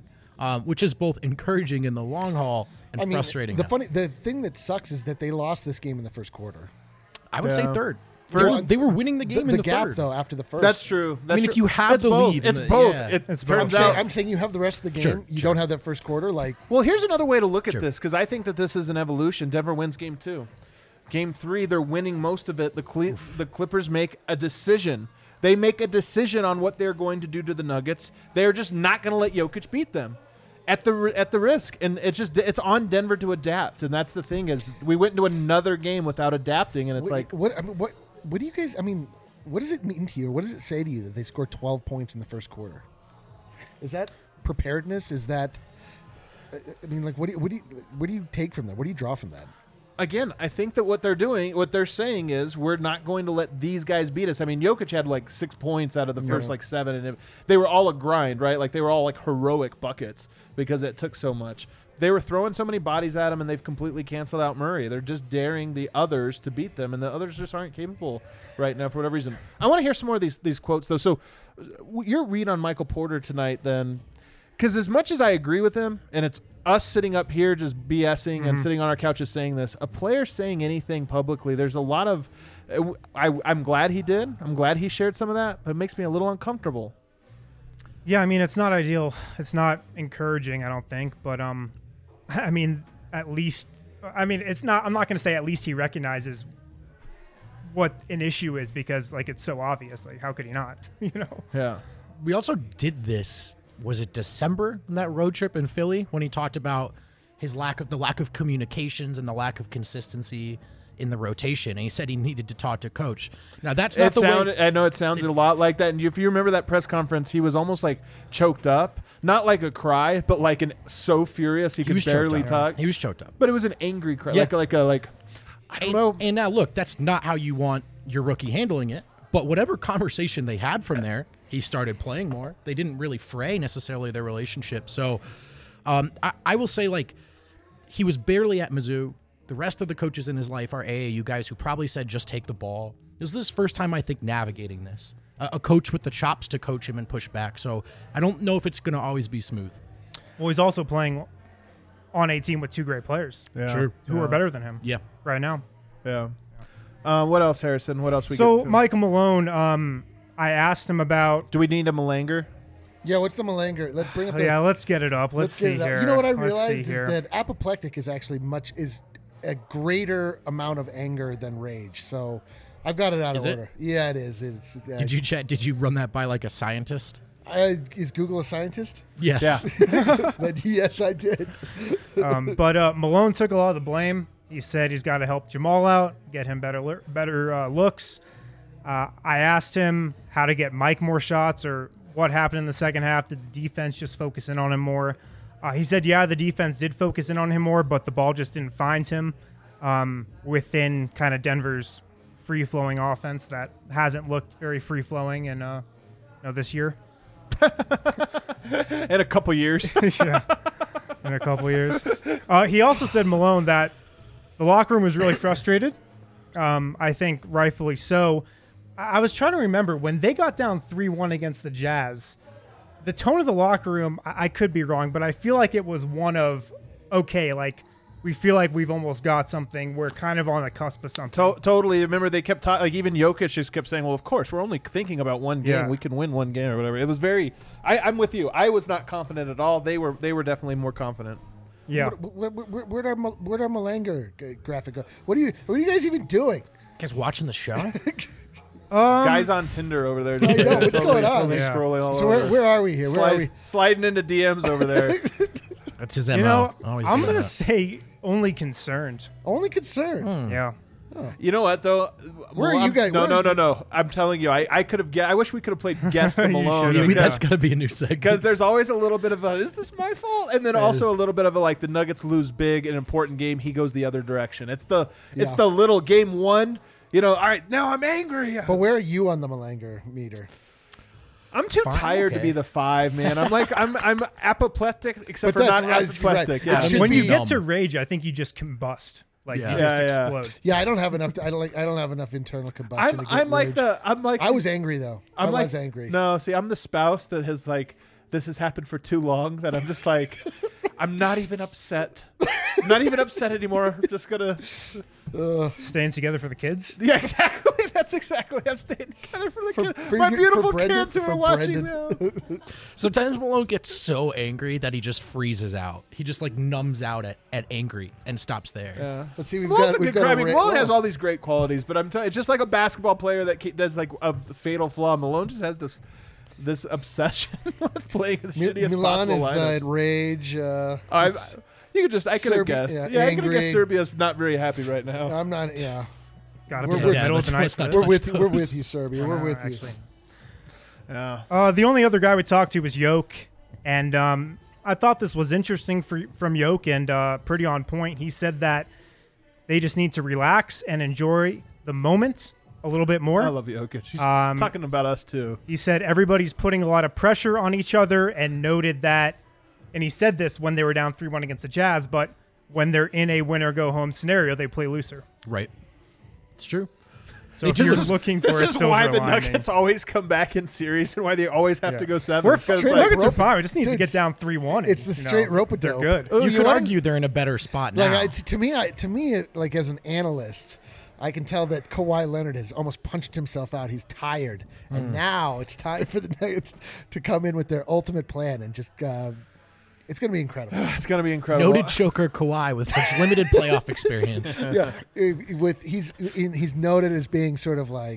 um, which is both encouraging in the long haul and I mean, frustrating. The now. funny, the thing that sucks is that they lost this game in the first quarter. I would Yeah. say third. They First- were, they were winning the The, game the in the gap, third. though, after the first. That's true. That's mean, if true. you have It's the both. lead in it's the- both. yeah. It It's I'm turns both. saying, out. I'm saying you have the rest of the game. Sure, you sure. don't have that first quarter. Like, Well, here's another way to look at Sure. this because I think that this is an evolution. Denver wins game two. Game three, they're winning most of it. The Cle- the Clippers make a decision. They make a decision on what they're going to do to the Nuggets. They're just not going to let Jokic beat them at the ri- at the risk. And it's just it's on Denver to adapt. And that's the thing is we went into another game without adapting, and it's what, like what? I mean, what? What do you guys? I mean, what does it mean to you? What does it say to you that they scored twelve points in the first quarter? Is that preparedness? Is that? I I mean, like, what do you, what do you, what do you take from that? What do you draw from that? again, I think that what they're doing, what they're saying is we're not going to let these guys beat us. I mean, Jokic had like six points out of the first Yeah. like seven, and it, they were all a grind, right? Like they were all like heroic buckets because it took so much. They were throwing so many bodies at him, and they've completely canceled out Murray. They're just daring the others to beat them, and the others just aren't capable right now for whatever reason. I want to hear some more of these these quotes though. So, w- your read on Michael Porter tonight, then, because as much as I agree with him, and it's us sitting up here just BSing and sitting on our couches saying this, a player saying anything publicly, there's a lot of. Uh, I, I'm glad he did. I'm glad he shared some of that, but it makes me a little uncomfortable. Yeah, I mean, it's not ideal. It's not encouraging, I don't think. But, um, I mean, at least, I mean, it's not, I'm not going to say at least he recognizes what an issue is because, like, it's so obvious. Like, how could he not, you know? Yeah. We also did this. Was it December on that road trip in Philly when he talked about his lack of the lack of communications and the lack of consistency in the rotation, and he said he needed to talk to coach. Now that's not It the sounded, way. I know it sounded a lot like that. And if you remember that press conference, he was almost like choked up, not like a cry, but like an so furious he, He could was choked barely up. talk. He was choked up. But it was an angry cry, Yeah. like like a like. I don't And, know. and now look, that's not how you want your rookie handling it. But whatever conversation they had from there, he started playing more. They didn't really fray necessarily their relationship. So um, I, I will say, like, he was barely at Mizzou. The rest of the coaches in his life are A A U guys who probably said, just take the ball. This is his first time, I think, navigating this. A, a coach with the chops to coach him and push back. So I don't know if it's going to always be smooth. Well, he's also playing on a team with two great players Yeah. True. who are better than him Yeah. right now. Yeah. Uh, what else, Harrison? What else we So, get to? Michael Malone, um, I asked him about. Do we need a Malanger? Yeah, what's the Malanger? Let's bring up the. Yeah, let's get it up. Let's, get see it up. here. You know what I Let's see realized is here. that apoplectic is actually much is a greater amount of anger than rage. So I've got it out Is of it? order. Yeah, it is. It's. Uh, Did you chat? Did you run that by like a scientist? I, is Google a scientist? Yes. But yes, I did. um, but uh, Malone took a lot of the blame. He said he's got to help Jamal out, get him better le- better uh, looks. Uh, I asked him how to get Mike more shots or what happened in the second half. Did the defense just focus in on him more? Uh, he said, yeah, the defense did focus in on him more, but the ball just didn't find him um, within kind of Denver's free-flowing offense that hasn't looked very free-flowing in uh, you know, this year. In a couple years. yeah, in a couple years. Uh, he also said, Malone, that the locker room was really frustrated. Um, I think rightfully so. I-, I was trying to remember when they got down three one against the Jazz, the tone of the locker room, I, I could be wrong, but I feel like it was one of, okay, like, we feel like we've almost got something. We're kind of on the cusp of something. To- totally. Remember, they kept talking. Like even Jokic just kept saying, "Well, of course, we're only thinking about one game. Yeah. We can win one game or whatever." It was very. I, I'm with you. I was not confident at all. They were. They were definitely more confident. yeah. Where, where, where, where'd our Mal- where'd our Malanger g- graphic go? What are you What are you guys even doing? Guys watching the show? Guys on Tinder over there. Just I know, what's totally, going on? totally Yeah. scrolling all So where, over. where are we here? Where Slide- are we? Sliding into D Ms over there. That's his M O. You know, Always I'm doing going to that. say only concerned. Only concern. Yeah. You know what though? Where are Well, you I'm- guys- No, where no, are no, you- no. I'm telling you, I, I could have. I wish we could have played guess the You Malone. should've. Yeah, we, because- that's gotta be a new segment. Because there's always a little bit of a, is this my fault? And then also a little bit of a, like, the Nuggets lose big, an important game, he goes the other direction. It's the it's Yeah. the little game one, you know, all right, now I'm angry. But where are you on the Malanger meter? I'm too Fine, tired to okay. be the five, man. I'm like, I'm I'm apoplectic, except But for that's not right, apoplectic. right. Yeah. It should When be you get numb. to rage, I think you just combust. Like, Yeah. you just Yeah, yeah. explode. Yeah, I don't have enough. I don't like. I don't have enough internal combustion. I'm to get I'm like rage. the I'm like I was angry though. I'm I like, was angry. No, see, I'm the spouse that has like this has happened for too long that I'm just like, I'm not even upset. I'm not even upset anymore. I'm just gonna Staying together for the kids. yeah, exactly. That's exactly. I'm staying together for the For- kids, for my your- beautiful for Brendan- kids who for are watching Brendan. now. Sometimes Malone gets so angry that he just freezes out. He just like numbs out at, at angry and stops there. Yeah. Let's see. We've Malone's got. a We've good got guy. I a mean, ra- Malone wow. has all these great qualities, but I'm telling it's just like a basketball player that ke- does like a fatal flaw. Malone just has this this obsession with playing the Mi- shittiest Milan possible is uh, lineups. at rage. Uh, I, it's- you could just I could have Serbia- guessed. yeah, Yeah, I could have angry. guessed Serbia's not very happy right now. I'm not. Yeah, Got to We're be in with- the middle Yeah, of the night. let's- let's for not we're this. touch with you. We're those. with you, Serbia. We're Uh, with actually. Yeah. Uh, the only other guy we talked to was Yoke, and um, I thought this was interesting for, from Yoke and uh, pretty on point. He said that they just need to relax and enjoy the moment a little bit more. I love Jokic. He's Um, talking about us too. He said everybody's putting a lot of pressure on each other and noted that, and he said this when they were down three one against the Jazz, but when they're in a win-or-go-home scenario, they play looser. Right. It's true. So They if just- you're This is- looking for This a is silver why the lining, Nuggets always come back in series and why they always have Yeah. to go seven. we're Because, the like, Nuggets are rope- fine. We just need Dude, to get it's- down three one. it's the straight rope-a-dope. They're good. Oh, you you could are? argue they're in a better spot now. like I, t- to me, I, to me, it, like as an analyst, I can tell that Kawhi Leonard has almost punched himself out. He's tired, and now it's time for the Nuggets to come in with their ultimate plan and just. Uh, it's going to be incredible. It's gonna be incredible. Noted choker Kawhi with such limited playoff experience. yeah, if- with he's in, he's noted as being sort of like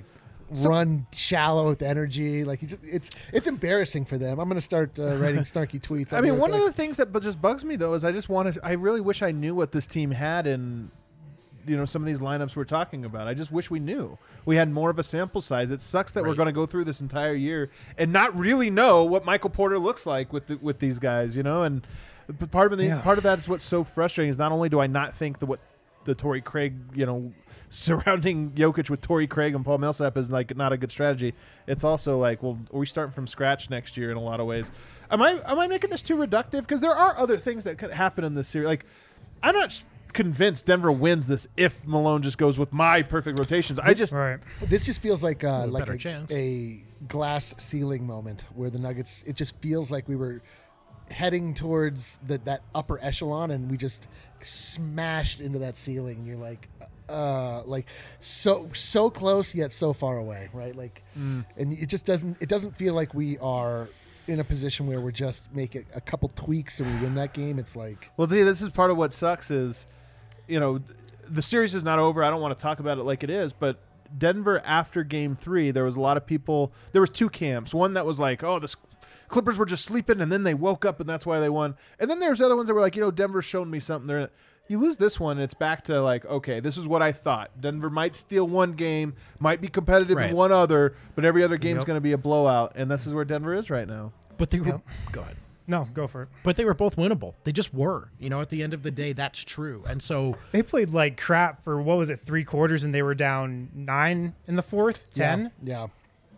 run shallow with energy. Like he's it's it's embarrassing for them. I'm going to start uh, writing snarky tweets. I mean, one of the things that bu- just bugs me though is I just want to. I really wish I knew what this team had in, you know, some of these lineups we're talking about. I just wish we knew. We had more of a sample size. It sucks that we're Right. going to go through this entire year and not really know what Michael Porter looks like with the, with these guys. You know, and p- part of the Yeah. part of that is what's so frustrating is not only do I not think the what the Torrey Craig, you know, surrounding Jokic with Torrey Craig and Paul Millsap is like not a good strategy. It's also like, well, are we starting from scratch next year in a lot of ways? Am I am I making this too reductive? Because there are other things that could happen in this series. Like, I'm not convinced Denver wins this if Malone just goes with my perfect rotations. I just Right. This just feels like uh, a like better a, chance. a glass ceiling moment where the Nuggets. It just feels like we were heading towards the, that upper echelon, and we just smashed into that ceiling. And you're like, uh, like so so close yet so far away, right? Like, Mm. and it just doesn't. It doesn't feel like we are in a position where we're just making a couple tweaks and we win that game. It's like. Well, see, this is part of what sucks is, you know, the series is not over. I don't want to talk about it like it is, but Denver after game three, there was a lot of people. There was two camps. One that was like, oh, the Clippers were just sleeping, and then they woke up, and that's why they won. And then there's other ones that were like, you know, Denver's shown me something. They're, you lose this one, and it's back to like, okay, this is what I thought. Denver might steal one game, might be competitive Right. in one other, but every other game's Yep. going to be a blowout, and this is where Denver is right now. But they were Yep. go ahead. No, go for it. But they were both winnable. They just were. You know, at the end of the day, that's true. And so They played like crap for what was it, three quarters, and they were down nine in the fourth, ten. Yeah.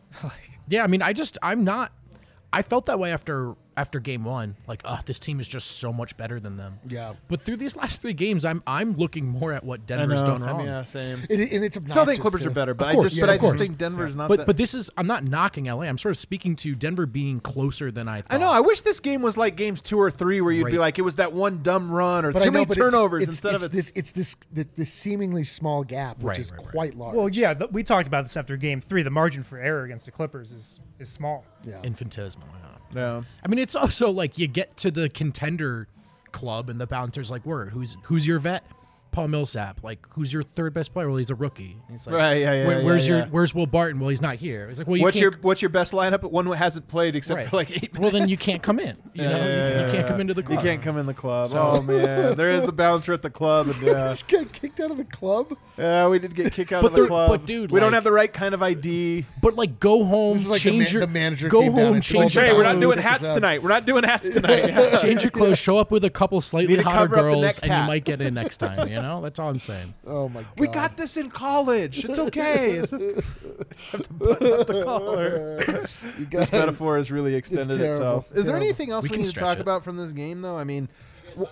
yeah, I mean, I just I'm not. I felt that way after after game one. Like, oh, this team is just so much better than them. Yeah. But through these last three games, I'm I'm looking more at what Denver's done I wrong. mean, yeah, same. It, and it's Still think obnoxious Clippers to- are better, but Of course, I just yeah, but of I just course. think Denver's not. But that, but this is I'm not knocking L A. I'm sort of speaking to Denver being closer than I thought. I know. I wish this game was like games two or three, where you'd be Right. like, it was that one dumb run or But too I know, many but it's- turnovers it's, instead it's of this. it's. It's this the, this seemingly small gap, which Right, is right, right. quite large. Well, yeah, th- we talked about this after game three. The margin for error against the Clippers is is small. yeah. infinitesimal. Yeah. Yeah. I mean, it's also like you get to the contender club and the bouncer's like, "Word, who's who's your vet?" Paul Millsap. Like, who's your third best player? Well, he's a rookie. And it's like, Right, yeah, yeah, "Where- yeah, where's your yeah. Where's Will Barton? Well, he's not here. It's like, well, you What's your can't. What's your best lineup? One who hasn't played except Right. for like eight. well, then you can't come in. You Yeah, know, yeah, you, yeah, you can't yeah. come into the club. You can't come in the club. So- Oh man, there is the bouncer at the club, and yeah, Just get kicked out of the club. yeah, we did get kicked out But of the there- club. but dude, we don't like- have the right kind of I D. But like, go home, This is like the change ma- your the manager go came down home, and change told your Hey, them, we're not "Oh, doing this is hats a- tonight. We're not doing hats tonight. Yeah. change your clothes, show up with a couple Need slightly to hotter cover up the girls, neck and cap. you might get in next time. You know, that's all I'm saying. Oh my god. We got this in college. It's okay. have to button up the collar. You This guys- metaphor has really extended terrible. itself. Is there Terrible. anything else We we, can need to stretch talk it. about from this game, though? I mean, w-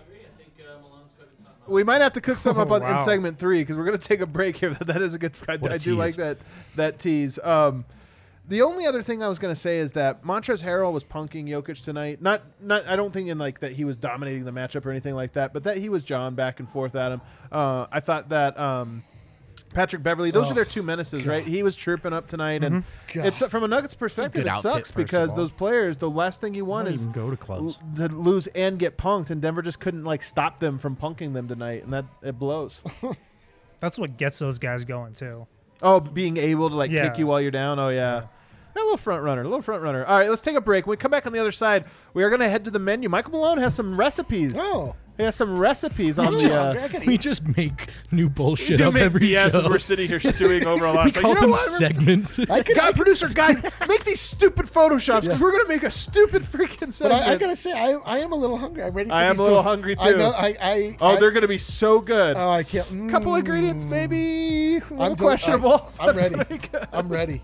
we might have to cook something up Oh, on, in wow. segment three because we're going to take a break here. That is a good. I, What a I do like tease. that that tease. Um, the only other thing I was going to say is that Montrezl Harrell was punking Jokic tonight. Not, not. I don't think in like that he was dominating the matchup or anything like that, but that he was jawing back and forth at him. Uh, I thought that um, Patrick Beverly. Those Oh, are their two menaces, God. right? He was chirping up tonight, and God. it's from a Nuggets perspective. good It outfit, sucks first because of all. those players, the last thing you want don't is even go to clubs. l- to lose and get punked, and Denver just couldn't like stop them from punking them tonight, and that it blows. That's what gets those guys going too. Oh, being able to like Yeah. kick you while you're down. Oh yeah. A little front runner, a little front runner. All right, let's take a break. When we come back on the other side, we are going to head to the menu. Michael Malone has some recipes. Oh. He has some recipes on the. just, Uh, we just make new bullshit do up make every B S show. as we're sitting here stewing over a lot. we It's like, call you know them what? segments. I could, Guy, producer guy, make these stupid photoshops because Yeah. we're going to make a stupid freaking but segment. I, I gotta say, I, I am a little hungry. I'm ready. For I am these a little to- hungry, I too. know. I. I oh, I, they're going to be so good. Oh, I can't. Mm, Couple ingredients, maybe a little I'm del- questionable. I, I'm but ready. very good. I'm ready.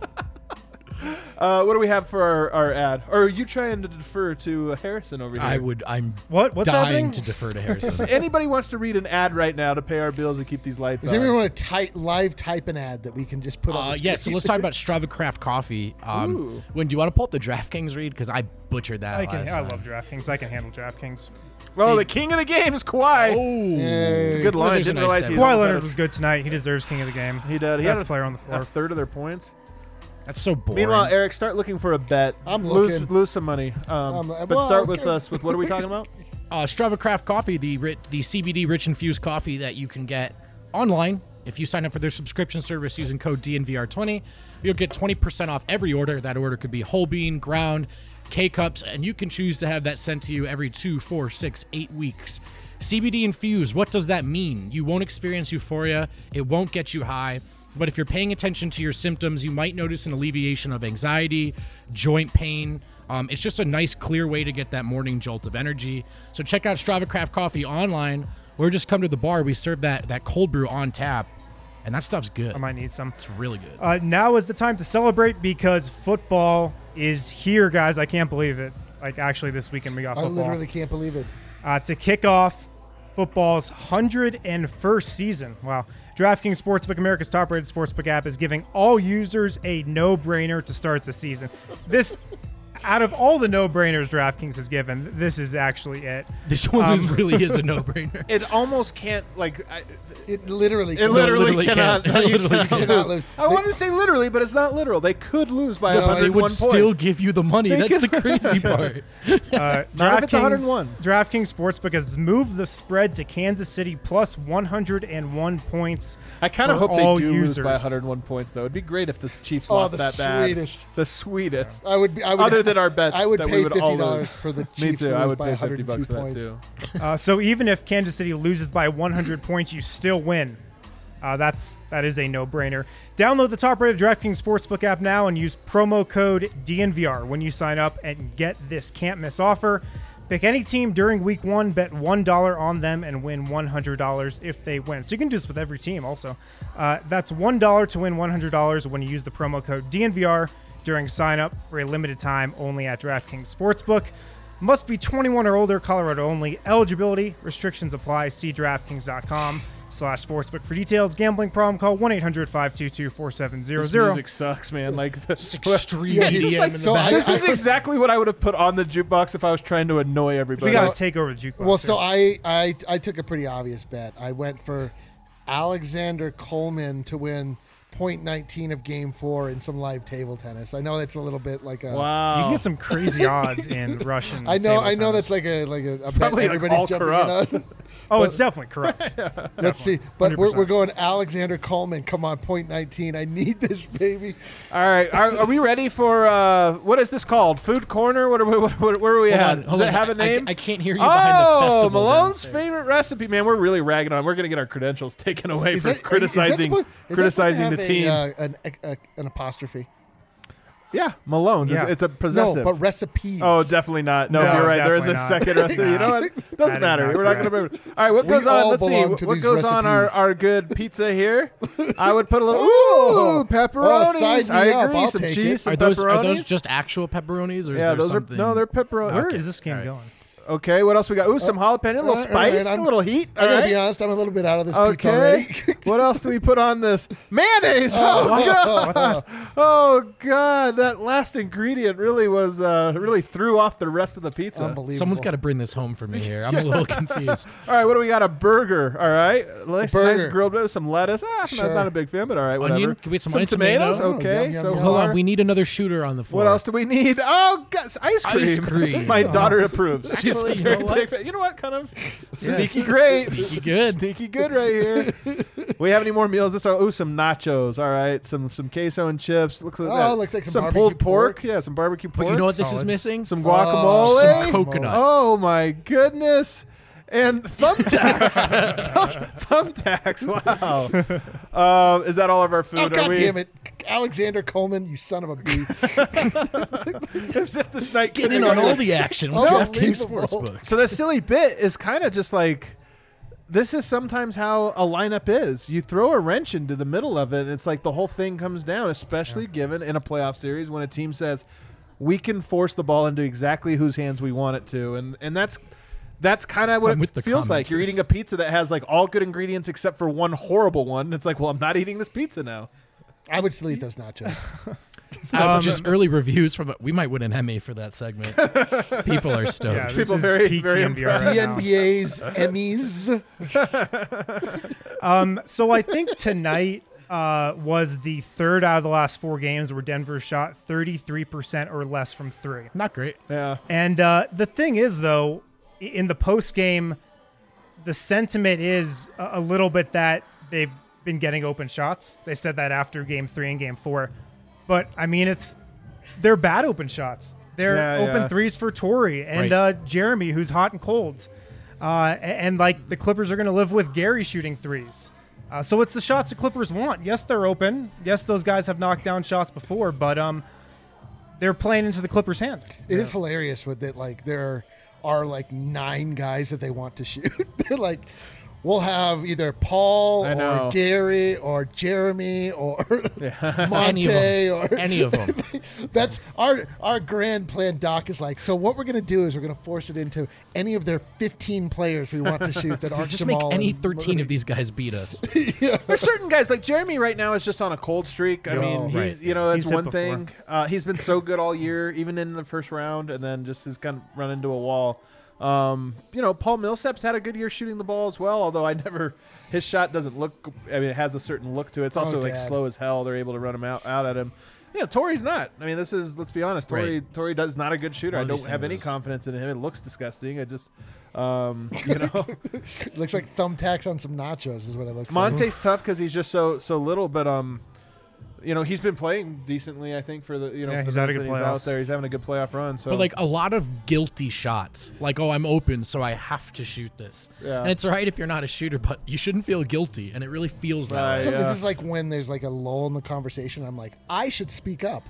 Uh, what do we have for our, our ad? Or are you trying to defer to uh, Harrison over here? I would. I'm What? What's dying happening? to defer to So Harrison. anybody wants to read an ad right now to pay our bills and keep these lights Does on? anyone want to type live type an ad that we can just put on? Uh, the yeah, so screen? let's talk about Strava Craft Coffee. Um, Ooh. when do you want to pull up the DraftKings read? Because I butchered that I can. last I time. love DraftKings. I can handle DraftKings. Well, the king of the game is Kawhi. Oh, Yay. Good Well, line. there's a Didn't nice realize seven. he Kawhi almost had Leonard a- was good tonight. He deserves King of the Game. He did. He Best had a, player on the a floor. third of their points. that's so boring. Meanwhile, Eric, start looking for a bet. I'm lose looking. lose some money. Um, Um, but well, start with okay. us. With what are we talking about? uh, Strava Craft Coffee, the ri- the C B D rich infused coffee that you can get online if you sign up for their subscription service using code D N V R twenty. You'll get twenty percent off every order. That order could be whole bean, ground, K-cups, and you can choose to have that sent to you every two, four, six, eight weeks. C B D infused, what does that mean? You won't experience euphoria. It won't get you high. But if you're paying attention to your symptoms, you might notice an alleviation of anxiety, joint pain. Um, it's just a nice, clear way to get that morning jolt of energy. So check out Strava Craft Coffee online, or just come to the bar. We serve that that cold brew on tap, and that stuff's good. I might need some. It's really good. Uh, now is the time to celebrate because football is here, guys. I can't believe it. Like, actually, this weekend we got I football. literally can't believe it. uh, to kick off football's one hundred first season. Wow. DraftKings Sportsbook, America's top-rated sportsbook app, is giving all users a no-brainer to start the season. This, out of all the no-brainers DraftKings has given, this is actually it. This one um, just really is a no-brainer. It almost can't like. I, It literally. it can't. literally, literally cannot. can't. It you literally cannot cannot lose. lose. I They- wanted to say literally, but it's not literal. They could lose by No, one it hundred They one would points. still give you the money. They That's could- the crazy part. Uh, Not if it's one hundred one. DraftKings Sportsbook has moved the spread to Kansas City plus one hundred one points. I kind of for hope they all do users. lose by one hundred one points, though. It'd be great if the Chiefs Oh, lost the that bad. sweetest. The sweetest. I would be. I would, Other than our bets I would that we pay would fifty all dollars lose. for the Me Chiefs too. to I lose would by pay one hundred fifty two bucks for that points. too. Uh, so even if Kansas City loses by one hundred points, you still win. Uh, that's that is a no-brainer. Download the top-rated DraftKings Sportsbook app now and use promo code D N V R when you sign up and get this can't-miss offer. Pick any team during week one, bet one dollar on them, and win one hundred dollars if they win. So you can do this with every team also. Uh, that's one dollar to win one hundred dollars when you use the promo code D N V R during sign-up for a limited time only at DraftKings Sportsbook. Must be twenty-one or older, Colorado only. Eligibility, restrictions apply. See DraftKings.com slash sportsbook for details. Gambling problem, call one eight hundred five two two four seven zero This zero. music sucks, man. Like the, Extreme Yeah, E this D is M like- in the so back. I- this is exactly what I would have put on the jukebox if I was trying to annoy everybody. We got So- to take over the jukebox. Well, so here. I, I I took a pretty obvious bet. I went for Alexander Coleman to win point nineteen of Game Four in some live table tennis. I know that's a little bit like a. wow. You can get some crazy odds in Russian. I know. table I know tennis. that's like a like a, a bet Probably, like, everybody's all jumping corrupt. in on. Oh, it's definitely corrupt. Let's see. But we're, one hundred percent. we're going Alexander Coleman. Come on, point nineteen. I need this, baby. All right, are, are we ready for uh, what is this called? Food corner? What are we? What, what, where are we Hold at? on, Does hold it on. have a I- I- name? I can't hear you behind the Oh, festival Malone's downstairs. favorite recipe, man. We're really ragging on. We're gonna get our credentials taken away Is for that- are you- criticizing is that supposed- is that criticizing the supposed team. to have a, uh, an, a, an apostrophe. yeah, Malone's. Yeah. It's, it's a possessive. No, but recipes. Oh, definitely not. No, No, you're right. There is a definitely not. second recipe. You know what? Doesn't That is matter. not We're not going to remember. All right, what We goes on? all Let's see. belong to What these goes on our, recipes. our good pizza here? I would put a little ooh Oh. pepperonis. Oh, sign I me up. agree. I'll Some take cheese, it. some Are those pepperonis. are those just actual pepperonis, or is yeah, there those something? are no, they're pepperoni. Where Okay. is this game All right. going? Okay, what else we got? Ooh, some jalapeno, a little all right, spice, I'm- a little heat. I All gotta right. be honest, I'm a little bit out of this pizza Okay. already. What else do we put on this? Mayonnaise. Oh, God. Oh God, that last ingredient really was uh, really threw off the rest of the pizza. Unbelievable. Someone's got to bring this home for me here. I'm a little confused. All right, what do we got? A burger. All right, nice, burger. nice grilled with some lettuce. Ah, Sure. not, not a big fan, but all right, Onion? whatever. Can we get some some onion, tomatoes? tomato? Okay, Oh, yum, yum, so yum. Hold far. on, we need another shooter on the floor. What else do we need? Oh, God, ice cream. Ice cream. My daughter approves. She's Actually, a you very know what? big fan. You know what? Kind of Yeah. sneaky great. Sneaky good. Sneaky good right here. We have any more meals? This are ooh, some nachos. All right, some some queso and chips. Looks like Oh, that. looks like some pulled barbecue pork. pork. Yeah, some barbecue pork. But you know what this is Solid. missing? Some Oh, guacamole. some coconut. Oh my goodness. And thumbtacks. Thumbtacks. Wow. Um, is that all of our food? Oh, Are God we, damn it. Alexander Coleman, you son of a bee. As if this night Get in on all the action with DraftKings Unbelievable. Sportsbook. So this silly bit is kind of just like, this is sometimes how a lineup is. You throw a wrench into the middle of it, and it's like the whole thing comes down, especially given in a playoff series when a team says, we can force the ball into exactly whose hands we want it to. And and that's that's kind of what I'm it with the feels like. You're commenters. eating a pizza that has like all good ingredients except for one horrible one. It's like, well, I'm not eating this pizza now. I would still eat those nachos. Uh, Um, just early reviews from we might win an Emmy for that segment. People are stoked. Yeah, this People is very, peak very D N V R impressed. right now. D N B A's, Emmys. Um, so I think tonight uh, was the third out of the last four games where Denver shot thirty-three percent or less from three. Not great. Yeah. And uh, the thing is, though, i- in the post game, the sentiment is a, a little bit that they've been getting open shots. They said that after game three and game four. But, I mean, it's they're bad open shots. They're Yeah, open yeah. threes for Torrey and Right. uh, Jeremy, who's hot and cold. Uh, a- and, like, the Clippers are going to live with Gary shooting threes. Uh, so it's the shots the Clippers want. Yes, they're open. Yes, those guys have knocked down shots before, but um, they're playing into the Clippers' hand. It is hilarious with it. Like, there are like nine guys that they want to shoot. They're like, we'll have either Paul I know. or Gary or Jeremy or Any Monte of them. or Any of them. that's our our grand plan. Doc is like, so what we're gonna do is we're gonna force it into any of their fifteen players we want to shoot that aren't Just make Jamal any and thirteen Murray. of these guys beat us. There's certain guys like Jeremy right now is just on a cold streak. I Yo, mean, he, right. you know, that's He's hit one before. thing. Uh, he's been so good all year, even in the first round, and then just has kind of run into a wall. Um, you know, Paul Millsap's had a good year shooting the ball as well, although I never, his shot doesn't look, I mean, it has a certain look to it. It's also Oh, like Dad. slow as hell. They're able to run him out, out at him. Yeah, Torrey's not. I mean, this is, let's be honest, Torrey, Right. Torrey does not a good shooter. One I of don't these have things any is- confidence in him. It looks disgusting. I just, um, you know. Looks like thumbtacks on some nachos is what it looks Monte's tough because he's just so so little, but um, you know, he's been playing decently. I think for the you know Yeah, for he's the had a minutes good that he's out playoffs. there. He's having a good playoff run. So But like a lot of guilty shots. Like, oh, I'm open, so I have to shoot this. Yeah. And it's all right if you're not a shooter, but you shouldn't feel guilty. And it really feels that Right. way. So Yeah. this is like when there's like a lull in the conversation. I'm like, I should speak up.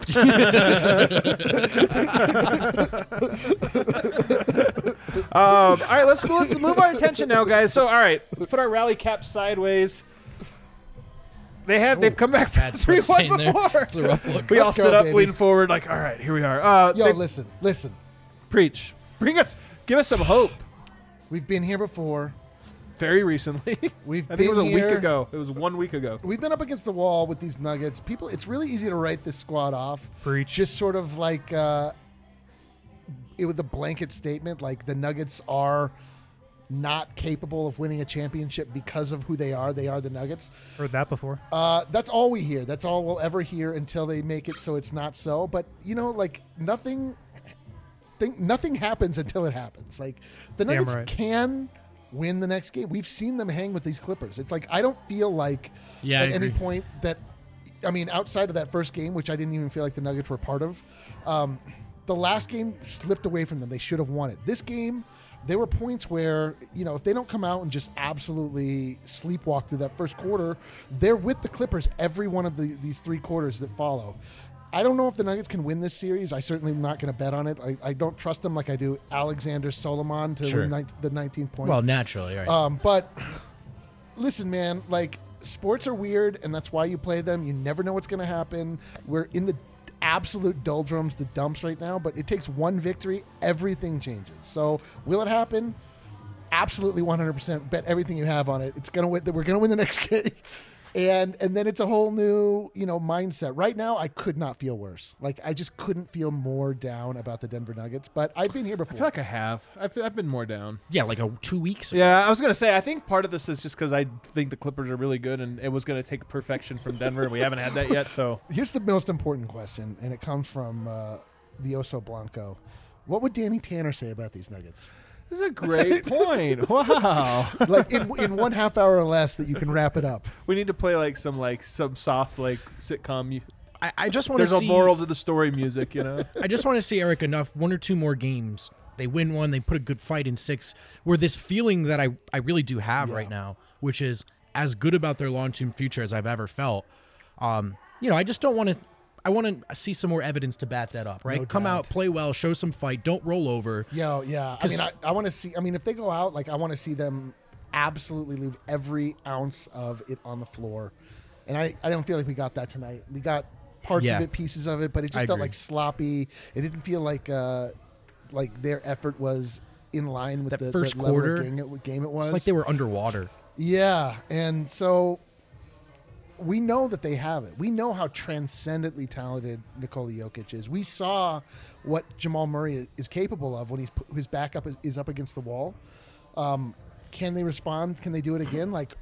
Um, all right, let's let's move our attention now, guys. So all right, let's put our rally cap sideways. They have they've come back from Bad three sweat one stain there. before. It's a rough look. We all Let's go, sit up, baby. lean forward, like all right, here we are. Uh, Yo, they- listen, listen. preach, bring us, give us some hope. We've been here before. Very recently, We've I think it been was a week here. ago. It was one week ago. We've been up against the wall with these Nuggets. People, it's really easy to write this squad off. Preach. Just sort of like uh, it was a blanket statement, like the Nuggets are not capable of winning a championship because of who they are. They are the Nuggets. Heard that before. Uh, that's all we hear. That's all we'll ever hear until they make it so it's not so. But you know, like nothing, think nothing happens until it happens. Like the Damn Nuggets right. can win the next game. We've seen them hang with these Clippers. It's like I don't feel like Yeah, I at any agree. point that I mean outside of that first game, which I didn't even feel like the Nuggets were part of. Um, the last game slipped away from them. They should have won it. This game, there were points where, you know, if they don't come out and just absolutely sleepwalk through that first quarter, they're with the Clippers every one of the, these three quarters that follow. I don't know if the Nuggets can win this series. I certainly am not going to bet on it. I, I don't trust them like I do Alexander Solomon to Sure. win nine, the nineteenth point. Well, naturally, right. Um, but listen, man, like sports are weird, and that's why you play them. You never know what's going to happen. We're in the absolute doldrums, the dumps right now. But it takes one victory, everything changes. So will it happen? Absolutely, one hundred percent. Bet everything you have on it. It's gonna win. We're gonna win the next game. And and then it's a whole new, you know, mindset. Right now, I could not feel worse. Like, I just couldn't feel more down about the Denver Nuggets. But I've been here before. I feel like I have. I've, I've been more down. Yeah, like a two weeks ago. Yeah, I was going to say, I think part of this is just because I think the Clippers are really good, and it was going to take perfection from Denver, and we haven't had that yet. So Here's the most important question, and it comes from uh, the Oso Blanco. What would Danny Tanner say about these Nuggets? this is a great point. Wow. Like, in, in one half hour or less that you can wrap it up. We need to play like some like some soft like sitcom. mu- I, I just want to There's see. a moral to the story music, you know. I just want to see Eric enough one or two more games. They win one, they put a good fight in six. Where this feeling that I, I really do have Yeah. right now, which is as good about their long-term future as I've ever felt. Um, you know, I just don't want to. I want to see some more evidence to back that up. Right, No come doubt. out, play well, show some fight, don't roll over. Yo, yeah. I 'Cause- mean, I, I want to see. I mean, if they go out, like, I want to see them absolutely leave every ounce of it on the floor. And I, I don't feel like we got that tonight. We got parts Yeah. of it, pieces of it, but it just I felt agree. like sloppy. It didn't feel like uh, like their effort was in line with That the, first the level quarter, of game it, game it was. It's like they were underwater. Yeah, and so we know that they have it. We know how transcendently talented Nikola Jokic is. We saw what Jamal Murray is capable of when he's put, his back up is, is up against the wall. Um, can they respond? Can they do it again? Like,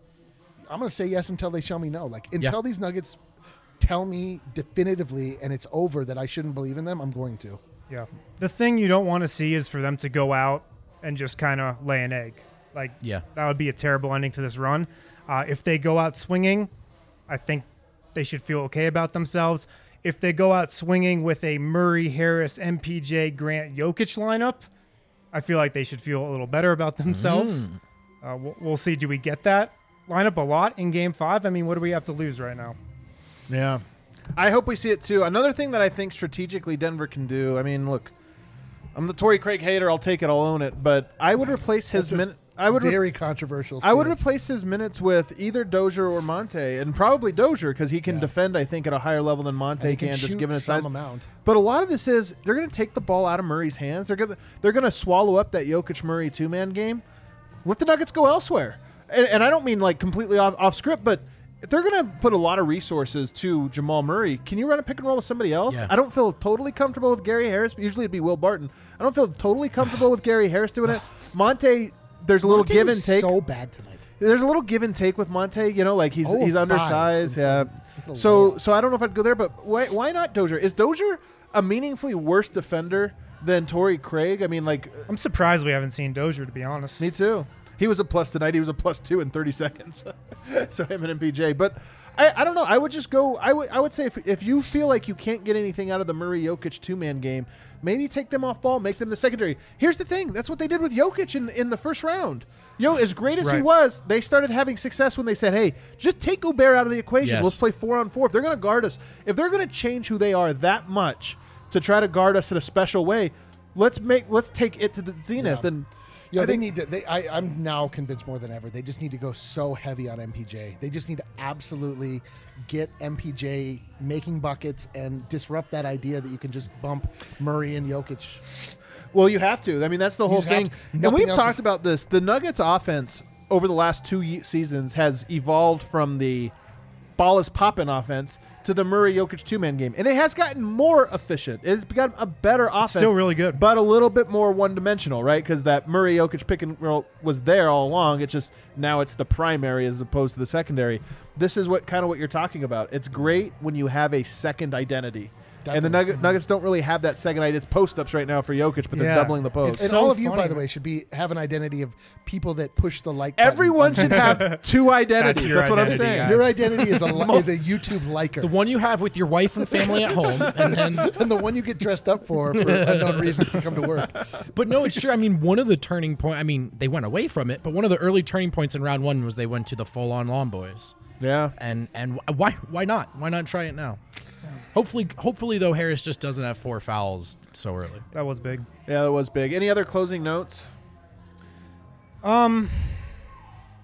I'm going to say yes until they show me no. Like, until Yeah. these Nuggets tell me definitively and it's over that I shouldn't believe in them, I'm going to. Yeah. The thing you don't want to see is for them to go out and just kind of lay an egg. Like, Yeah. that would be a terrible ending to this run. Uh, if they go out swinging, I think they should feel okay about themselves. If they go out swinging with a Murray, Harris, M P J, Grant, Jokic lineup, I feel like they should feel a little better about themselves. Uh, we'll, we'll see. Do we get that lineup a lot in Game Five? I mean, what do we have to lose right now? Yeah. I hope we see it too. Another thing that I think strategically Denver can do, I mean, look, I'm the Torrey Craig hater. I'll take it. I'll own it. But I would replace his That's a minute. I would. Re- Very controversial. I would stance. replace his minutes with either Dozier or Monte, and probably Dozier because he can Yeah. defend, I think, at a higher level than Monte And he can, can just shoot given his some size. amount. But a lot of this is they're going to take the ball out of Murray's hands. They're going to they're going to swallow up that Jokic Murray two man game. Let the Nuggets go elsewhere, and, and I don't mean like completely off, off script, but if they're going to put a lot of resources to Jamal Murray, can you run a pick and roll with somebody else? Yeah. I don't feel totally comfortable with Gary Harris. Usually it'd be Will Barton. I don't feel totally comfortable with Gary Harris doing it. Monte, there's a little Monte give was and take. So bad tonight. There's a little give and take with Monte, you know, like he's Oh, he's five. undersized, It's yeah. a little So layup. so I don't know if I'd go there, but why why not Dozier? Is Dozier a meaningfully worse defender than Torrey Craig? I mean, like I'm surprised we haven't seen Dozier, to be honest. me too. He was a plus tonight. He was a plus two in thirty seconds. So him and M P J. But I, I don't know. I would just go. I would I would say if if you feel like you can't get anything out of the Murray Jokic two man game, maybe take them off ball, make them the secondary. Here's the thing. That's what they did with Jokic in in the first round. Yo, as great as he Right. was, they started having success when they said, "Hey, just take Gobert out of the equation. Yes. Let's play four on four." If they're going to guard us, if they're going to change who they are that much to try to guard us in a special way, let's make let's take it to the zenith. Yeah. And Yeah, I they think- need to. They, I, I'm now convinced more than ever. They just need to go so heavy on M P J. They just need to absolutely get M P J making buckets and disrupt that idea that you can just bump Murray and Jokic. Well, you have to. I mean, that's the whole just have thing. to. And Nothing we've else talked is- about this. The Nuggets offense over the last two ye- seasons has evolved from the ball is popping offense to the Murray Jokic two man game. And it has gotten more efficient. It's become a better offense. still really good. But a little bit more one dimensional, right? Because that Murray Jokic pick and roll was there all along. It's just now it's the primary as opposed to the secondary. This is what kind of what you're talking about. It's great when you have a second identity. And the Definitely. Nugget, Nuggets don't really have that second idea. It's post-ups right now for Jokic, but they're Yeah. doubling the post. And So all of you, funny. by the way, should be have an identity of people that push the like button. Everyone should have two identities. That's That's, your what I'm identity, saying. guys. Your identity is a li- is a YouTube liker, The one you have with your wife and family at home, and then and the one you get dressed up for for unknown reasons to come to work. But no, it's true. I mean, one of the turning point. I mean, they went away from it, but one of the early turning points in round one was they went to the full-on Lawn Boys, Yeah. and and why why not? Why not try it now? Hopefully, hopefully though, Harris just doesn't have four fouls so early. That was big. Yeah, that was big. Any other closing notes? Um,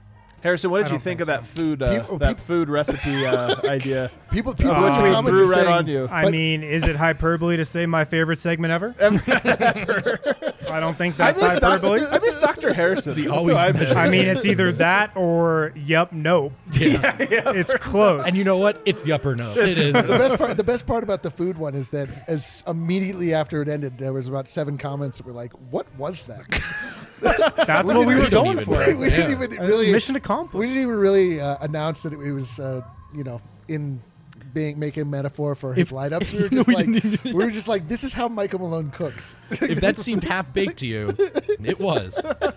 Harrison, what I did you don't think, think of that so. food uh, People- that people- food recipe uh, idea? People, people Uh, in the we comments threw are right saying, on you. I But- mean, is it hyperbole to say my favorite segment ever? I don't think I that's miss, Doc- hyperbole. I miss Doctor Harrison. The That's always what I measure. miss. I mean, it's either that or yep, nope. Yeah. It's close. And you know what? It's yup or no. It is. the best part the best part about the food one is that as immediately after it ended, there was about seven comments that were like, "What was that?" that's we what we didn't- were we don't going even for. know. we didn't Yeah. even Uh, really Mission we accomplished. didn't even really uh, announce that it, it was uh, you know in being making a metaphor for his If- lineups. We were No, just we like didn't even- we were just like, this is how Michael Malone cooks. If that seemed half baked to you, it was.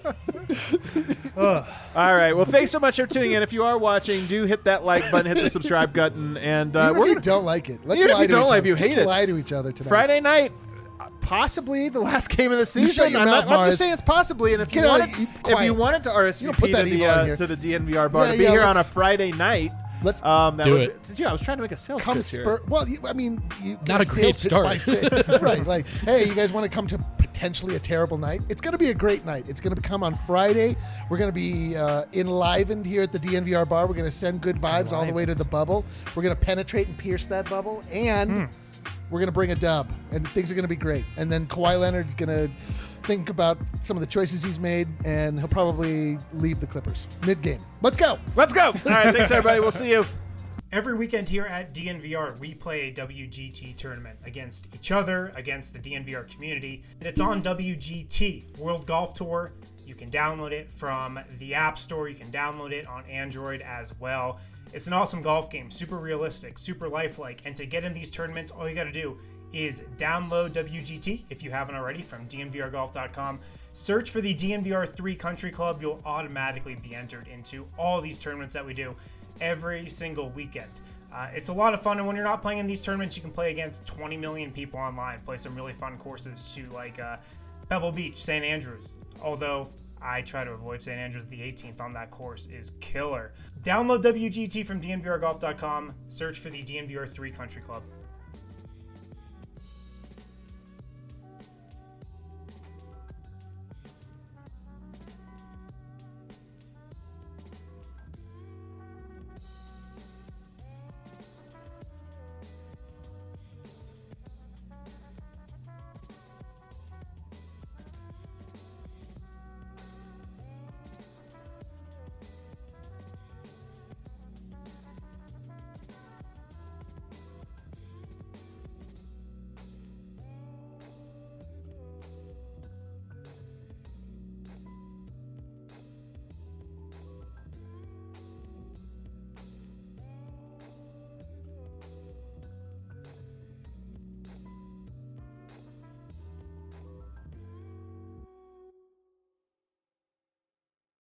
All right. Well, thanks so much for tuning in. If you are watching, do hit that like button, hit the subscribe button, and uh, Even we're if you gonna, don't like it, let's Even if lie you to don't each like other. it, you Just hate it. lie to each other tonight. Friday night, uh, possibly the last game of the season. shut your I'm, mouth, not, I'm Mars. just saying it's possibly. And if you Get out wanted, of- you- if you quiet. wanted to R S V You don't put P that to the evil in uh, here. to the D N V R bar Yeah, to be yeah, here on a let's- Friday night, Let's um, that Do would, it. Yeah, I was trying to make a sales come pitch here. spur. Well, you, I mean, you Not a sales great pitch by start. say- right? Like, hey, you guys want to come to potentially a terrible night? It's going to be a great night. It's going to come on Friday. We're going to be uh, enlivened here at the D N V R bar. We're going to send good vibes all the way to the bubble. We're going to penetrate and pierce that bubble, and we're going to bring a dub, and things are going to be great. And then Kawhi Leonard's going to think about some of the choices he's made, and he'll probably leave the Clippers mid-game. Let's go. Let's go. All right. Thanks, everybody. We'll see you. Every weekend here at D N V R, we play a W G T tournament against each other, against the D N V R community. And it's on W G T, World Golf Tour. You can download it from the App Store. You can download it on Android as well. It's an awesome golf game, super realistic, super lifelike. And to get in these tournaments, all you got to do is download W G T if you haven't already from D N V R golf dot com. Search for the D N V R three Country Club. You'll automatically be entered into all these tournaments that we do every single weekend. Uh, it's a lot of fun, and when you're not playing in these tournaments, you can play against twenty million people online, play some really fun courses to like uh, Pebble Beach, Saint Andrews. Although I try to avoid Saint Andrews, the eighteenth on that course is killer. Download W G T from D N V R golf dot com. Search for the D N V R three Country Club.